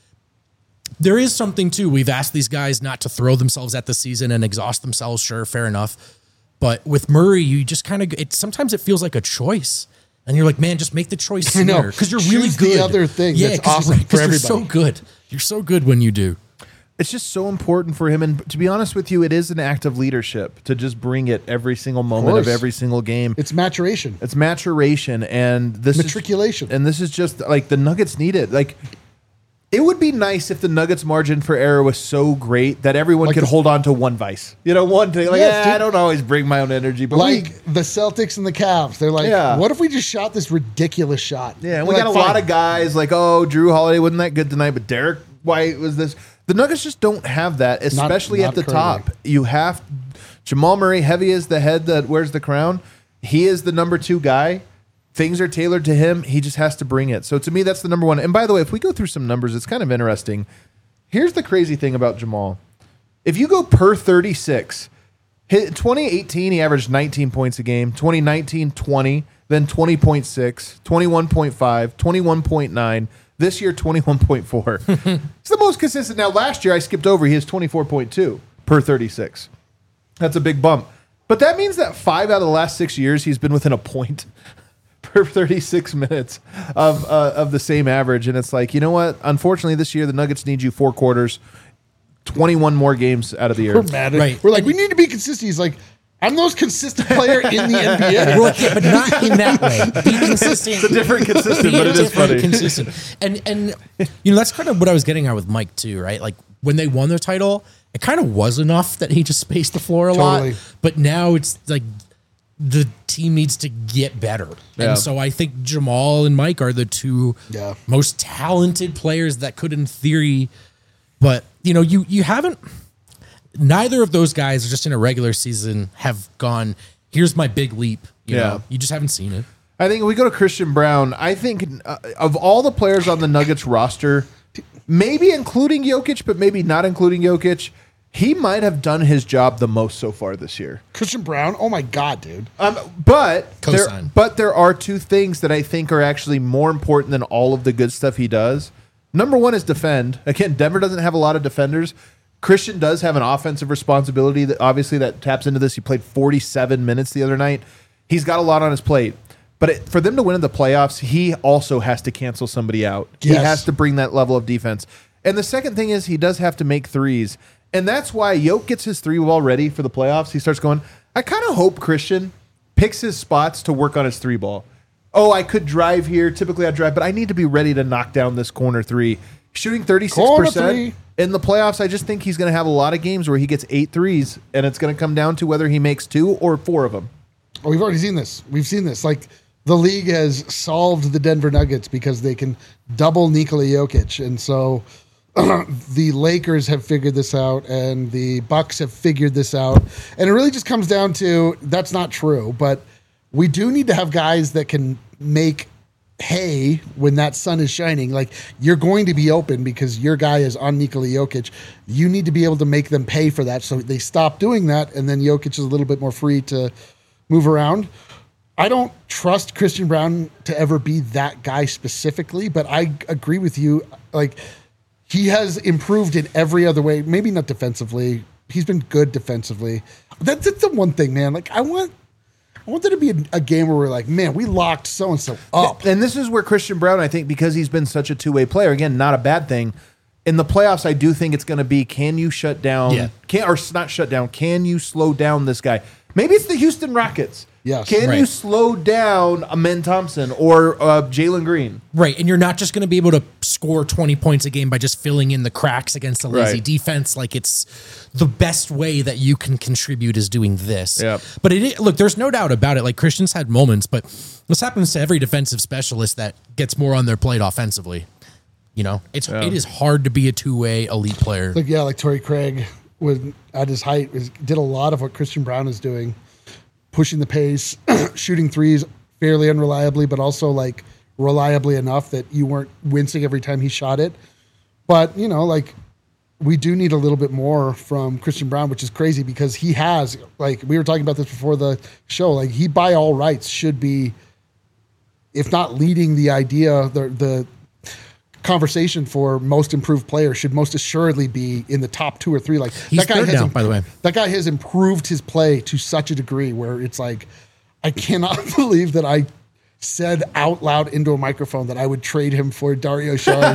there is something too. We've asked these guys not to throw themselves at the season and exhaust themselves. Sure, fair enough. But with Murray, you just kind of it. Sometimes it feels like a choice, and you're like, man, just make the choice I know. sooner because you're really Choose the good. other thing yeah, that's 'cause awesome you're, right, 'cause for you're so everybody. good. You're so good when you do. It's just so important for him. And to be honest with you, it is an act of leadership to just bring it every single moment of, course. every single game. It's maturation. It's maturation, and this Matriculation. Is, and this is just like the Nuggets need it. Like it would be nice if the Nuggets' margin for error was so great that everyone Like could the- hold on to one vice. You know, one thing. Like, Yes, yeah, I dude. don't always bring my own energy, but Like we, the Celtics and the Cavs. They're like, Yeah. what if we just shot this ridiculous shot? yeah, and They're we got like, a lot fine. of guys like, oh, Drew Holiday wasn't that good tonight, but Derek White was this. The Nuggets just don't have that, especially not at the currently. top. You have Jamal Murray, heavy as the head that wears the crown. He is the number two guy. Things are tailored to him. He just has to bring it. So to me, that's the number one. And by the way, if we go through some numbers, it's kind of interesting. Here's the crazy thing about Jamal. If you go per thirty-six, hit twenty eighteen, he averaged nineteen points a game. twenty nineteen, twenty, then twenty point six, twenty-one point five, twenty-one point nine. This year, twenty-one point four. It's the most consistent. Now, last year, I skipped over. He has twenty-four point two per thirty-six. That's a big bump. But that means that five out of the last six years, he's been within a point per thirty-six minutes of uh, of the same average. And it's like, you know what? Unfortunately, this year, the Nuggets need you four quarters, twenty-one more games out of the year. We're mad at Right. We're like, And- we need to be consistent. He's like, I'm the most consistent player in the N B A. We're like, yeah, but not in that way. Be consistent. It's a different consistent, Be but it is different, funny. consistent. And and you know that's kind of what I was getting at with Mike too, right? Like when they won their title, it kind of was enough that he just spaced the floor a Totally. lot. But now it's like the team needs to get better. Yeah. And so I think Jamal and Mike are the two Yeah. most talented players that could, in theory, but you know, you you haven't. Neither of those guys, just in a regular season, have gone. Here's my big leap. You Yeah. know, you just haven't seen it. I think if we go to Christian Brown, I think uh, of all the players on the Nuggets roster, maybe including Jokic, but maybe not including Jokic, he might have done his job the most so far this year. Christian Brown. Oh my God, dude. Um, but there, Cosign. but there are two things that I think are actually more important than all of the good stuff he does. Number one is defend. Again, Denver doesn't have a lot of defenders. Christian does have an offensive responsibility that obviously that taps into this. He played forty-seven minutes the other night. He's got a lot on his plate. But it, for them to win in the playoffs, he also has to cancel somebody out. He Yes. has to bring that level of defense. And the second thing is he does have to make threes. And that's why Yoke gets his three ball ready for the playoffs. He starts going, I kind of hope Christian picks his spots to work on his three ball. Oh, I could drive here. Typically I drive, but I need to be ready to knock down this corner three. Shooting thirty-six percent in the playoffs, I just think he's going to have a lot of games where he gets eight threes, and it's going to come down to whether he makes two or four of them. Oh, we've already seen this. We've seen this. Like, the league has solved the Denver Nuggets because they can double Nikola Jokic. And so the Lakers have figured this out, and the Bucks have figured this out. And it really just comes down to, that's not true, but we do need to have guys that can make hay when that sun is shining. Like, you're going to be open because your guy is on Nikola Jokic. You need to be able to make them pay for that. So they stop doing that, and then Jokic is a little bit more free to move around. I don't trust Christian Braun to ever be that guy specifically, but I agree with you. Like, he has improved in every other way. Maybe not defensively. He's been good defensively. That's, that's the one thing, man. Like, I want I want there to be a, a game where we're like, man, we locked so-and-so up. And this is where Christian Braun, I think, because he's been such a two-way player, again, not a bad thing. In the playoffs, I do think it's going to be, can you shut down, Yeah. can or not shut down, can you slow down this guy? Maybe it's the Houston Rockets. Yes. Can Right. you slow down Amen Thompson or uh, Jalen Green? Right, and you're not just going to be able to score twenty points a game by just filling in the cracks against a lazy Right. defense. Like, it's the best way that you can contribute is doing this. Yep. But it look, there's no doubt about it. Like, Christian's had moments, but this happens to every defensive specialist that gets more on their plate offensively. You know, it's it is hard to be a two way elite player. Like, yeah, like Torrey Craig would, at his height, was, did a lot of what Christian Braun is doing. Pushing the pace, shooting threes fairly unreliably, but also like reliably enough that you weren't wincing every time he shot it. But, you know, like, we do need a little bit more from Christian Braun, which is crazy because he has, like, we were talking about this before the show, like, he by all rights should be, if not leading the idea, the the conversation for most improved player should most assuredly be in the top two or three. Like, He's that guy third has now, imp- by the way. That guy has improved his play to such a degree where it's like, I cannot believe that I said out loud into a microphone that I would trade him for Dario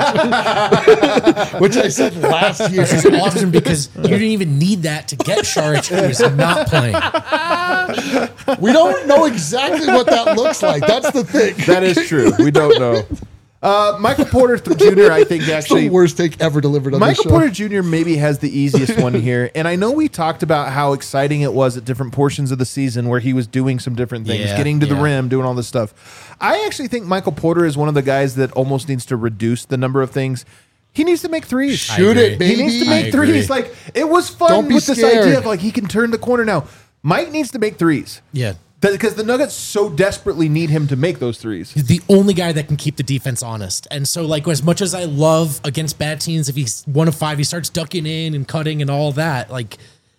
Saric, which I said last year. It's awesome because you didn't even need that to get Saric, who is not playing. We don't know exactly what that looks like. That's the thing. That is true. We don't know. Uh, Michael Porter Junior, I think, It's actually. the worst take ever delivered on this Michael show. Porter Junior maybe has the easiest one here. And I know we talked about how exciting it was at different portions of the season where he was doing some different things, Yeah, getting to the yeah. rim, doing all this stuff. I actually think Michael Porter is one of the guys that almost needs to reduce the number of things. He needs to make threes. Shoot agree. it, baby. He needs to I make agree. threes. Like, it was fun Don't be with this scared. idea of like he can turn the corner now. Mike needs to make threes. Yeah. Because the Nuggets so desperately need him to make those threes. He's the only guy that can keep the defense honest. And so, like, as much as I love against bad teams, if he's one of five, he starts ducking in and cutting and all that. Like,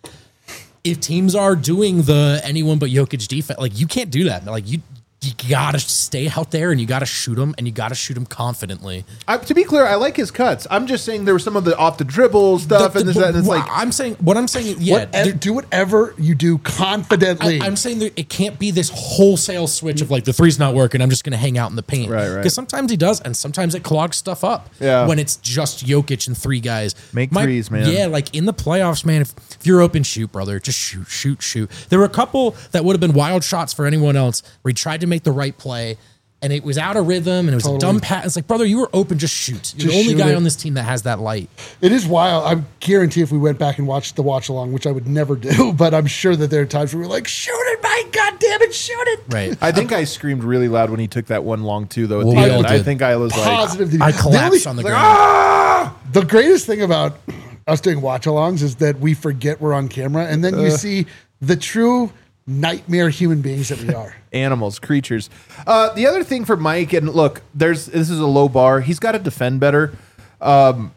if teams are doing the anyone but Jokic defense, like, you can't do that. Like, you you gotta stay out there and you gotta shoot them and you gotta shoot them confidently. I, to be clear, I like his cuts. I'm just saying there was some of the off the dribble stuff The- and this the- that, and it's what like I'm saying, what I'm saying, yeah, Whatever- there- do whatever you do confidently. I, I'm saying that it can't be this wholesale switch of like the three's not working. I'm just going to hang out in the paint. Right, right. Because sometimes he does, and sometimes it clogs stuff up. Yeah. When it's just Jokic and three guys. Make threes, man. Yeah, like in the playoffs, man. If, if you're open, shoot, brother. Just shoot, shoot, shoot. There were a couple that would have been wild shots for anyone else where he tried to make the right play. And it was out of rhythm, and it was Totally. a dumb pass. It's like, brother, you were open. Just shoot. You're Just the only shoot guy it. on this team that has that light. It is wild. I guarantee if we went back and watched the watch along, which I would never do, but I'm sure that there are times where we're like, shoot it, Mike, God damn it, shoot it. Right. I think I screamed really loud when he took that one long two though at the We all end. I did. think I was like, Positive. I The collapsed only- on the like, ground. ah! The greatest thing about us doing watch alongs is that we forget we're on camera, and then you see the true nightmare human beings that we are. Animals, creatures. Uh, the other thing for Mike, and look, there's this is a low bar. He's got to defend better. Um,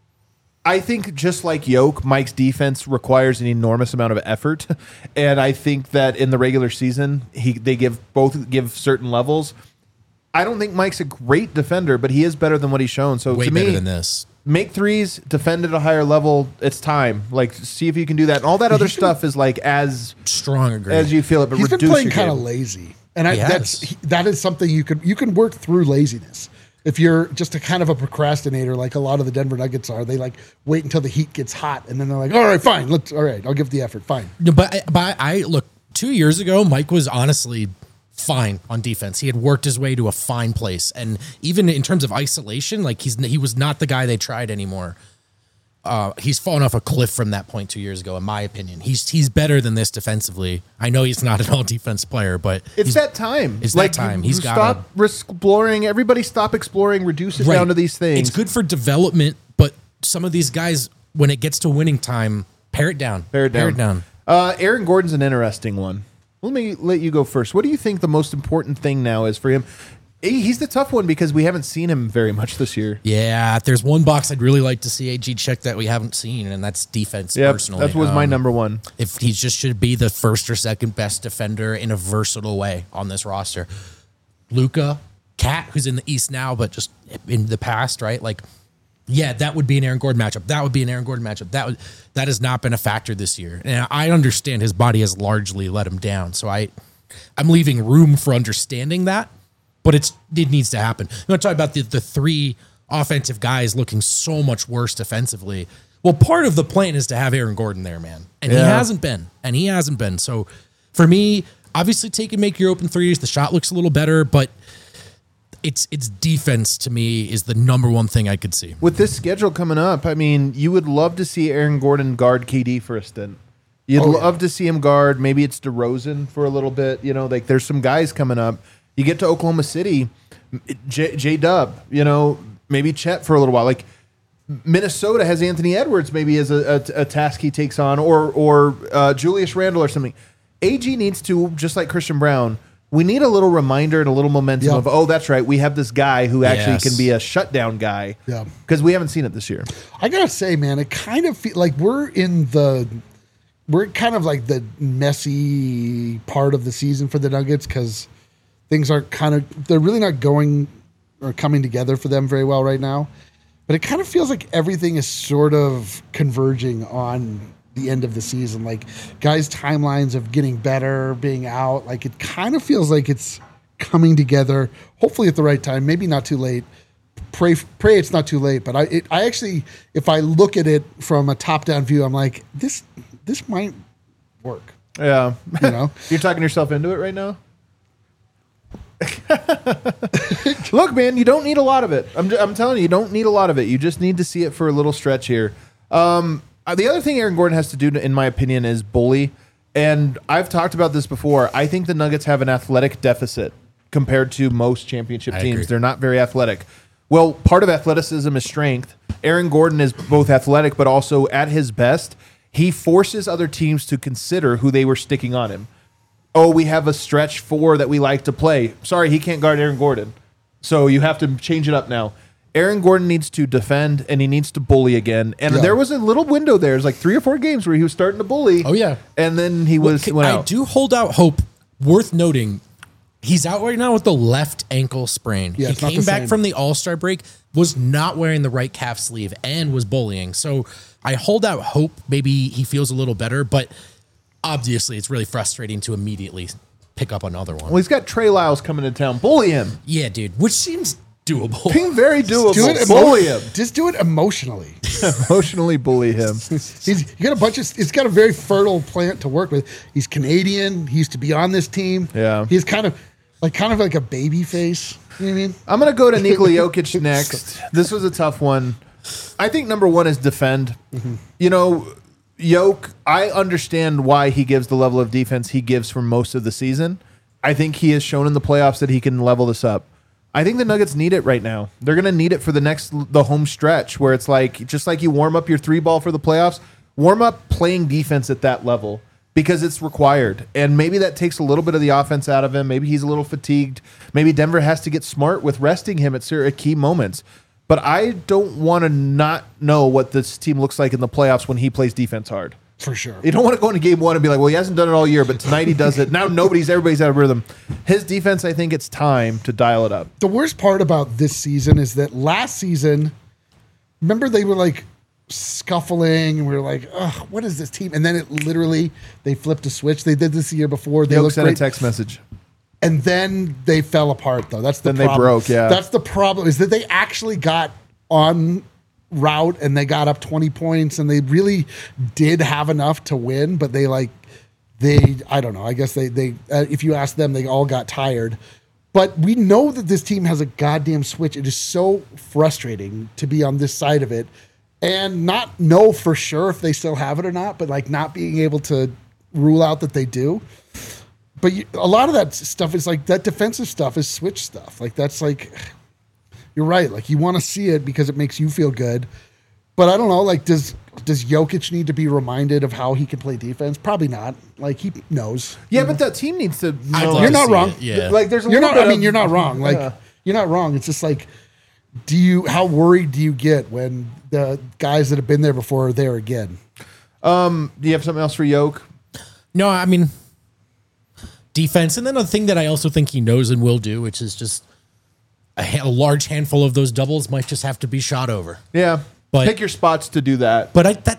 I think just like Yoke, Mike's defense requires an enormous amount of effort, and I think that in the regular season, he they give both give certain levels. I don't think Mike's a great defender, but he is better than what he's shown. So Way to better me, than this. make threes, defend at a higher level. It's time. Like, see if you can do that. And all that other stuff is like as Strong agree. as you feel it, but He's been reduce playing your kind of game. lazy, and I, He that's has. he, that is something you can you can work through laziness. If you're just a kind of a procrastinator, like a lot of the Denver Nuggets are, they like wait until the heat gets hot, and then they're like, "All right, fine, let's all right, I'll give the effort, fine." No, but I- but I look. two years ago, Mike was honestly fine on defense. He had worked his way to a fine place. And even in terms of isolation, like he's he was not the guy they tried anymore. Uh, he's fallen off a cliff from that point two years ago, in my opinion. He's he's better than this defensively. I know he's not an all defense player, but it's that time. It's like, that time. You, He's you got stop exploring. Everybody stop exploring. Reduce it right. down to these things. It's good for development, but some of these guys, when it gets to winning time, pare it down. Pare it down. Pare it down. Uh, Aaron Gordon's an interesting one. Let me let you go first. What do you think the most important thing now is for him? He's the tough one because we haven't seen him very much this year. Yeah, there's one box I'd really like to see A G check that we haven't seen, and that's defense. Yeah, personally, that was my Um, number one. If he just should be the first or second best defender in a versatile way on this roster. Luka, Cat, who's in the East now, but just in the past, right? Like, yeah, that would be an Aaron Gordon matchup. That would be an Aaron Gordon matchup. That would that has not been a factor this year, and I understand his body has largely let him down. So I, I'm leaving room for understanding that. But it's it needs to happen. I'm going to talk about the, the three offensive guys looking so much worse defensively. Well, part of the plan is to have Aaron Gordon there, man. And Yeah. he hasn't been. And he hasn't been. So for me, obviously take and make your open threes. The shot looks a little better, but it's it's defense to me is the number one thing I could see. With this schedule coming up, I mean, you would love to see Aaron Gordon guard K D for a stint. You'd Oh, yeah. love to see him guard. Maybe it's DeRozan for a little bit. You know, like there's some guys coming up. You get to Oklahoma City, J, J Dub, you know, maybe Chet for a little while. Like Minnesota has Anthony Edwards maybe as a, a, a task he takes on, or or uh, Julius Randle or something. A G needs to, just like Christian Brown, we need a little reminder and a little momentum Yep. of, oh, that's right, we have this guy who actually Yes. can be a shutdown guy. Yeah. Because we haven't seen it this year. I gotta say, man, it kind of feel like we're in the we're kind of like the messy part of the season for the Nuggets because things are kind of they're really not going or coming together for them very well right now. But it kind of feels like everything is sort of converging on the end of the season. Like guys' timelines of getting better, being out. Like it kind of feels like it's coming together. Hopefully at the right time. Maybe not too late. Pray, pray it's not too late. But I, it, I actually, if I look at it from a top-down view, I'm like, this, this might work. Yeah. You know, You're talking yourself into it right now? Look, man, you don't need a lot of it. I'm, I'm telling you, you don't need a lot of it. You just need to see it for a little stretch here. Um, uh, the other thing Aaron Gordon has to do, in my opinion, is bully. And I've talked about this before. I think the Nuggets have an athletic deficit compared to most championship I teams. agree. They're not very athletic. Well, part of athleticism is strength. Aaron Gordon is both athletic, but also at his best, he forces other teams to consider who they were sticking on him. Oh, we have a stretch four that we like to play. Sorry, he can't guard Aaron Gordon. So you have to change it up now. Aaron Gordon needs to defend, and he needs to bully again. And Yeah. there was a little window there. It was like three or four games where he was starting to bully. Oh, yeah. And then he was Well, went I out. do hold out hope. Worth noting, he's out right now with the left ankle sprain. Yeah, he it's not came the back same. from the All-Star break, was not wearing the right calf sleeve, and was bullying. So I hold out hope maybe he feels a little better, but obviously it's really frustrating to immediately pick up another one. Well, he's got Trey Lyles coming to town. Bully him. Yeah, dude, which seems doable. Being very doable. do it. bully emo- him. Just do it emotionally. Emotionally bully him. He's you got a bunch of. It's got a very fertile plant to work with. He's Canadian. He used to be on this team. Yeah. He's kind of like kind of like a baby face. You know what I mean? I'm going to go to Nikola Jokic next. This was a tough one. I think number one is defend. Mm-hmm. You know, Jokic, I understand why he gives the level of defense he gives for most of the season. I think he has shown in the playoffs that he can level this up. I think the Nuggets need it right now. They're going to need it for the next, the home stretch where it's like, just like you warm up your three ball for the playoffs, warm up playing defense at that level because it's required. And maybe that takes a little bit of the offense out of him. Maybe he's a little fatigued. Maybe Denver has to get smart with resting him at certain key moments. But I don't want to not know what this team looks like in the playoffs when he plays defense hard. For sure. You don't want to go into game one and be like, well, he hasn't done it all year, but tonight he does it. Now nobody's, everybody's out of rhythm. His defense, I think it's time to dial it up. The worst part about this season is that last season, remember they were like scuffling and we were like, ugh, what is this team? And then it literally, they flipped a switch. They did this the year before. They Jokic looked sent a great. text message. And then they fell apart, though. That's the Then they problem. broke, yeah. That's the problem, is that they actually got on route and they got up twenty points and they really did have enough to win, but they like they, I don't know. I guess they, they uh, if you ask them, they all got tired. But we know that this team has a goddamn switch. It is so frustrating to be on this side of it and not know for sure if they still have it or not, but like not being able to rule out that they do. But you, a lot of that stuff is like that defensive stuff is switch stuff. Like that's like, you're right. Like you want to see it because it makes you feel good. But I don't know, like, does does Jokic need to be reminded of how he can play defense? Probably not. Like, he knows. Yeah, but that team needs to know. You're not wrong. It, yeah. Like, there's a You're little not, bit I mean, of- you're not wrong. Like, Yeah. you're not wrong. It's just like, do you, how worried do you get when the guys that have been there before are there again? Um, do you have something else for Yoke? No, I mean, defense. And then a thing that I also think he knows and will do, which is just a, ha- a large handful of those doubles might just have to be shot over. Yeah. But- Pick your spots to do that. But I that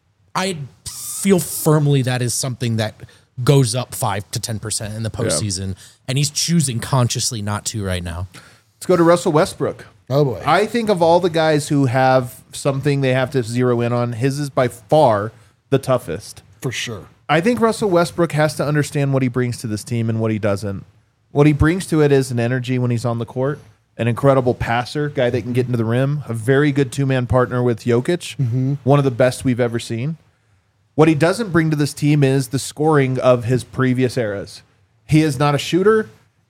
I feel firmly that is something that goes up five to ten percent in the postseason, and he's choosing consciously not to right now. Let's go to Russell Westbrook. Oh, boy. I think of all the guys who have something they have to zero in on, his is by far the toughest. For sure. I think Russell Westbrook has to understand what he brings to this team and what he doesn't. What he brings to it is an energy when he's on the court, an incredible passer, guy that can get into the rim, a very good two-man partner with Jokic, Mm-hmm. one of the best we've ever seen. What he doesn't bring to this team is the scoring of his previous eras. He is not a shooter,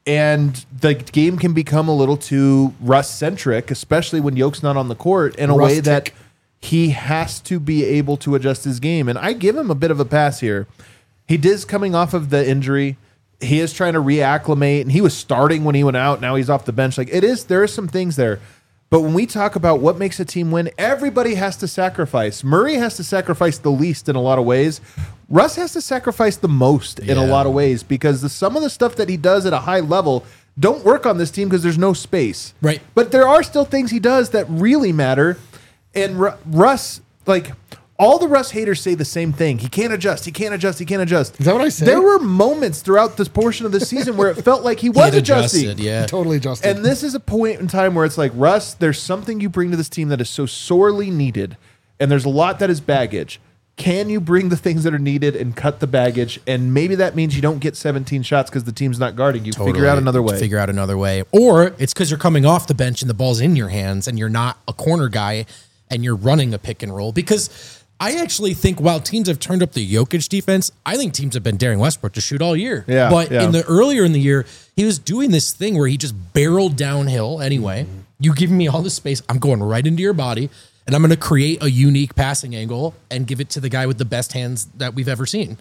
and the game can become a little too Russ-centric, especially when Yoke's not on the court, in a way Rustic. that he has to be able to adjust his game. And I give him a bit of a pass here. He is coming off of the injury. He is trying to reacclimate, and he was starting when he went out. Now he's off the bench. Like it is, there are some things there. But when we talk about what makes a team win, everybody has to sacrifice. Murray has to sacrifice the least in a lot of ways. Russ has to sacrifice the most in a Yeah. lot of ways because the, some of the stuff that he does at a high level don't work on this team because there's no space. Right. But there are still things he does that really matter. And Ru- Russ, like all the Russ haters say the same thing. He can't adjust. He can't adjust. He can't adjust. Is that what I say? There were moments throughout this portion of the season where it felt like he was He had adjusting. adjusted, yeah. Totally adjusted. And this is a point in time where it's like, Russ, there's something you bring to this team that is so sorely needed. And there's a lot that is baggage. Can you bring the things that are needed and cut the baggage? And maybe that means you don't get seventeen shots because the team's not guarding you. Figure out another way. Figure out another way. Or it's because you're coming off the bench and the ball's in your hands and you're not a corner guy and you're running a pick and roll. Because I actually think while teams have turned up the Jokic defense, I think teams have been daring Westbrook to shoot all year. Yeah, But yeah. in the earlier in the year, he was doing this thing where he just barreled downhill anyway. Mm-hmm. You give me all the space, I'm going right into your body, and I'm going to create a unique passing angle and give it to the guy with the best hands that we've ever seen.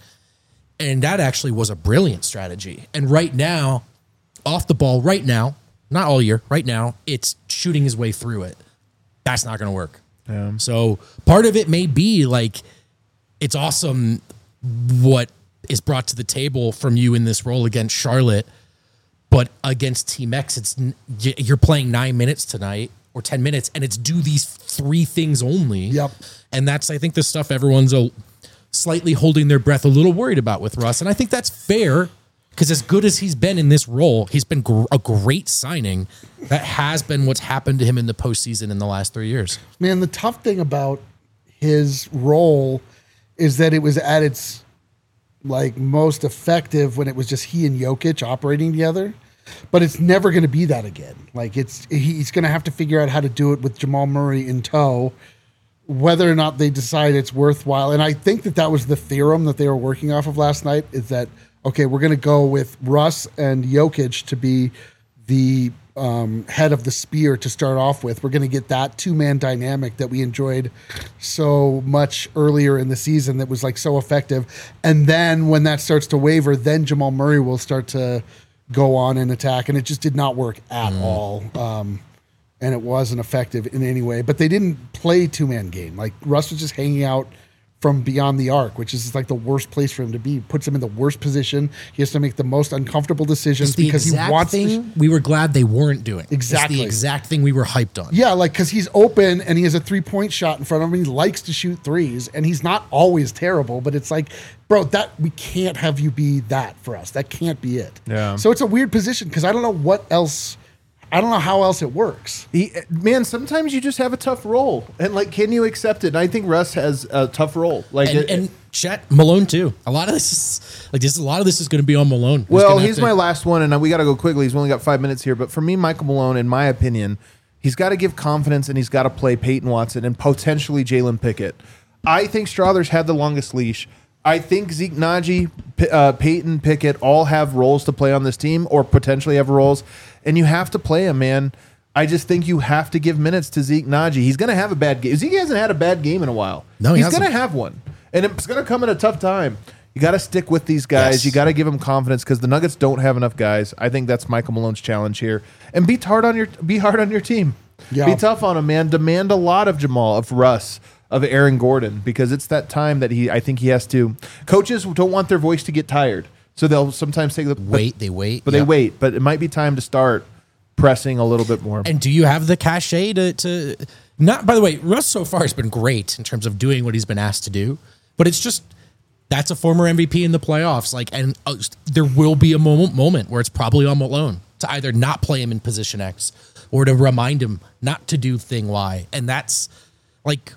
And that actually was a brilliant strategy. And right now, off the ball, right now, not all year, right now, it's shooting his way through it. That's not going to work. Yeah. So part of it may be like, it's awesome what is brought to the table from you in this role against Charlotte, but against Team X, it's n- y- you're playing nine minutes tonight or ten minutes, and it's do these three things only. Yep. And that's, I think, the stuff everyone's a, slightly holding their breath, a little worried about with Russ. And I think that's fair because as good as he's been in this role, he's been gr- a great signing. That has been what's happened to him in the postseason in the last three years. Man, the tough thing about his role is that it was at its like most effective when it was just he and Jokic operating together. But it's never going to be that again. Like it's he's going to have to figure out how to do it with Jamal Murray in tow, whether or not they decide it's worthwhile. And I think that that was the theorem that they were working off of last night. Is that okay? We're going to go with Russ and Jokic to be the um, head of the spear to start off with. We're going to get that two-man dynamic that we enjoyed so much earlier in the season that was like so effective. And then when that starts to waver, then Jamal Murray will start to go on and attack. And it just did not work at all. Um, and it wasn't effective in any way. But they didn't play two-man game. Like Russ was just hanging out from beyond the arc, which is like the worst place for him to be. Puts him in the worst position. He has to make the most uncomfortable decisions It's the because he exact wants thing to. we were glad they weren't doing. Exactly. It's the exact thing we were hyped on. Yeah, like because he's open and he has a three-point shot in front of him. He likes to shoot threes, and he's not always terrible. But it's like, bro, that we can't have you be that for us. That can't be it. Yeah. So it's a weird position because I don't know what else. I don't know how else it works. He, man, sometimes you just have a tough role, and like, can you accept it? And I think Russ has a tough role. Like, And, it- and Chet, Malone too. A lot of this is like this. A lot of this is going to be on Malone. He's Well, gonna have he's to- my last one, and we got to go quickly. He's only got five minutes here, but for me, Michael Malone, in my opinion, he's got to give confidence, and he's got to play Peyton Watson and potentially Jalen Pickett. I think Strawther's had the longest leash. I think Zeke Naji, P- uh, Peyton Pickett all have roles to play on this team, or potentially have roles, and you have to play them, man. I just think you have to give minutes to Zeke Naji. He's going to have a bad game. Zeke hasn't had a bad game in a while. No, he he's hasn't. going to have one, and it's going to come at a tough time. You got to stick with these guys. Yes. You got to give them confidence because the Nuggets don't have enough guys. I think that's Michael Malone's challenge here, and be hard on your be hard on your team. Yeah. Be tough on him, man. Demand a lot of Jamal, of Russ, of Aaron Gordon, because it's that time that he. I think he has to. Coaches don't want their voice to get tired, so they'll sometimes take the wait. They wait, but yeah. they wait. But it might be time to start pressing a little bit more. And do you have the cachet to, to not, by the way, Russ so far has been great in terms of doing what he's been asked to do, but it's just, that's a former M V P in the playoffs. Like, and uh, there will be a moment, moment where it's probably on Malone to either not play him in position X or to remind him not to do thing Y. And that's like,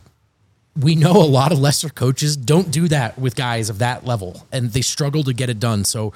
we know a lot of lesser coaches don't do that with guys of that level and they struggle to get it done. So,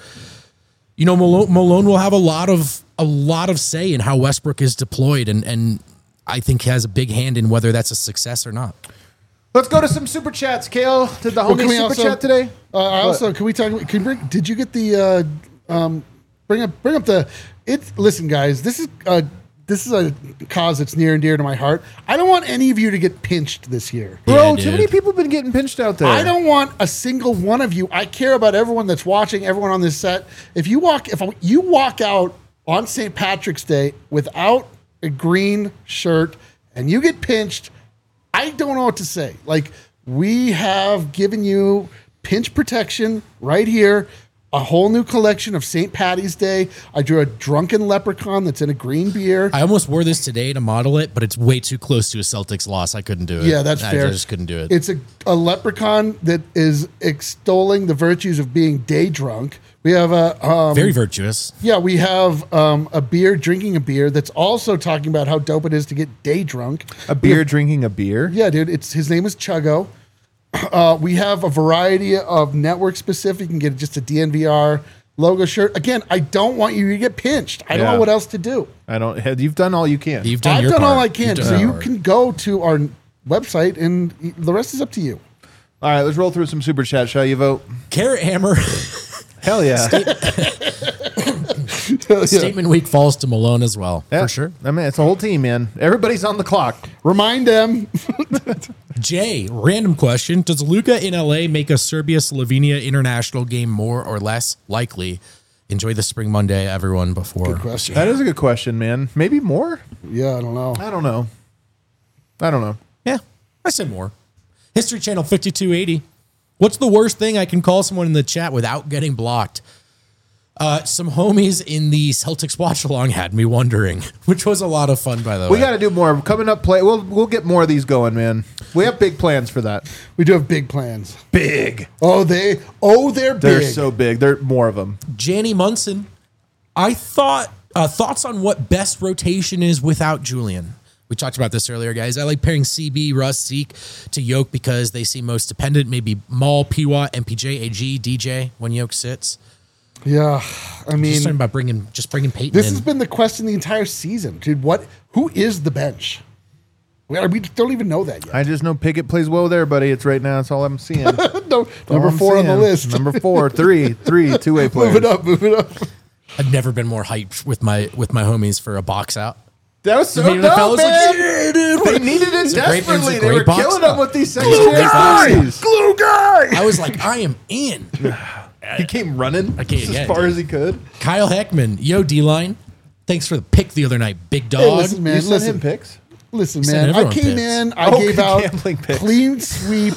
you know, Malone, Malone will have a lot of a lot of say in how Westbrook is deployed, and and I think has a big hand in whether that's a success or not. Let's go to some super chats. Kale, did the Well, homie can we super also- chat today? Uh, I also, can we talk? Can you bring, did you get the? Uh, um, bring up, bring up the. It. Listen, guys, this is uh, this is a cause that's near and dear to my heart. I don't want any of you to get pinched this year. Bro, Yeah, too dude. many people have been getting pinched out there. I don't want a single one of you. I care about everyone that's watching, everyone on this set. If you walk, if you walk out on Saint Patrick's Day without a green shirt and you get pinched, I don't know what to say. Like, we have given you pinch protection right here. A whole new collection of Saint Patty's Day. I drew a drunken leprechaun that's in a green beer. I almost wore this today to model it, but it's way too close to a Celtics loss. I couldn't do it. Yeah, that's I, fair. I just couldn't do it. It's a, a leprechaun that is extolling the virtues of being day drunk. We have a um, Very virtuous. yeah, we have um, a beer drinking a beer that's also talking about how dope it is to get day drunk. A beer drinking a beer? Yeah, dude, it's his name is Chuggo. Uh, we have a variety of network specific. You can get just a D N V R logo shirt. Again, I don't want you to get pinched. I don't Yeah. know what else to do. I don't. have- You've done all you can. You've done I've your done part. all I can. You've done So your you part. can go to our website and the rest is up to you. All right, let's roll through some super chat. Shall you vote? Carrot Hammer. Hell yeah. Statement week falls to Malone as well, Yeah. for sure. I mean, it's a whole team, man. Everybody's on the clock. Remind them. Jay, random question. Does Luca in L A make a Serbia-Slovenia international game more or less likely? Enjoy the spring Monday, everyone, before. Good question. That is a good question, man. Maybe more? Yeah, I don't know. I don't know. I don't know. Yeah, I said more. History Channel fifty-two eighty. What's the worst thing I can call someone in the chat without getting blocked? Uh, some homies in the Celtics watch along had me wondering, which was a lot of fun, by the We way. got to do more. Coming up, play. We'll we'll get more of these going, man. We have big plans for that. We do have big plans. Big. Oh, they. Oh, they're big. They're so big. They're more of them. Janny Munson, I thought uh, thoughts on what best rotation is without Julian. We talked about this earlier, guys. I like pairing C B, Russ, Zeke to Yoke because they seem most dependent. Maybe Maul, P W A, M P J, A G, D J when Yoke sits. Yeah, I mean, Just talking about bringing, just bringing Peyton this in. has been the question the entire season, dude. What? Who is the bench? We, we don't even know that yet. I just know Pickett plays well there, buddy. It's right now. That's all I'm seeing. no, All number I'm four on the seeing. list. Number four, three, three, two-way players. Move it up, move it up. I've never been more hyped with my with my homies for a box out. That was so Me and dope, the fellas like, man. yeah, dude. They needed it It's a great- it's a desperately. They great were box killing out. them with these Glue secondary guy! boxes. Glue guy. I was like, I am in. He came running Okay, as yeah, far dude. as he could. Kyle Heckman, yo D-line. Thanks for the pick the other night, big dog. Hey, listen, man. You sent listen, him picks? listen, Send man. I everyone came picks. in. I Oh, gave out gambling picks. clean sweep,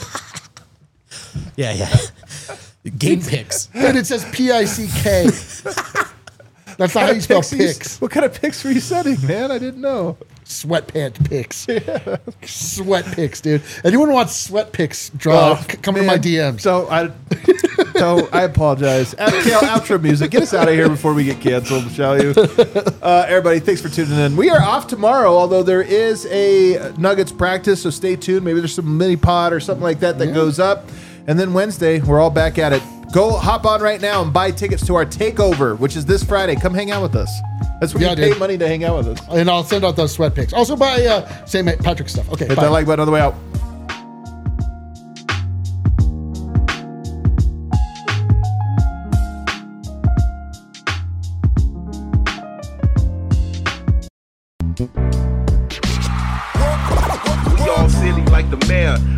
Yeah, yeah. Game picks. and it says P I C K. That's not how you spell Picks are you- picks. What kind of picks were you setting, man? I didn't know. Sweatpant picks. Sweat picks, dude. Anyone wants sweat picks? Draw. Oh, c- come to man. my D Ms. So I, so I apologize. Out- Kale, outro music. Get us out of here before we get canceled, shall you? Uh, everybody, thanks for tuning in. We are off tomorrow, although there is a Nuggets practice, so stay tuned. Maybe there's some mini pod or something like that that Yeah. goes up. And then Wednesday, we're all back at it. Go hop on right now and buy tickets to our takeover, which is this Friday. Come hang out with us. That's where Yeah, you pay dude. money to hang out with us. And I'll send out those sweat pics. Also buy uh, Saint Patrick stuff. Okay, Hit bye. that like button on the way out. We all silly like the mayor.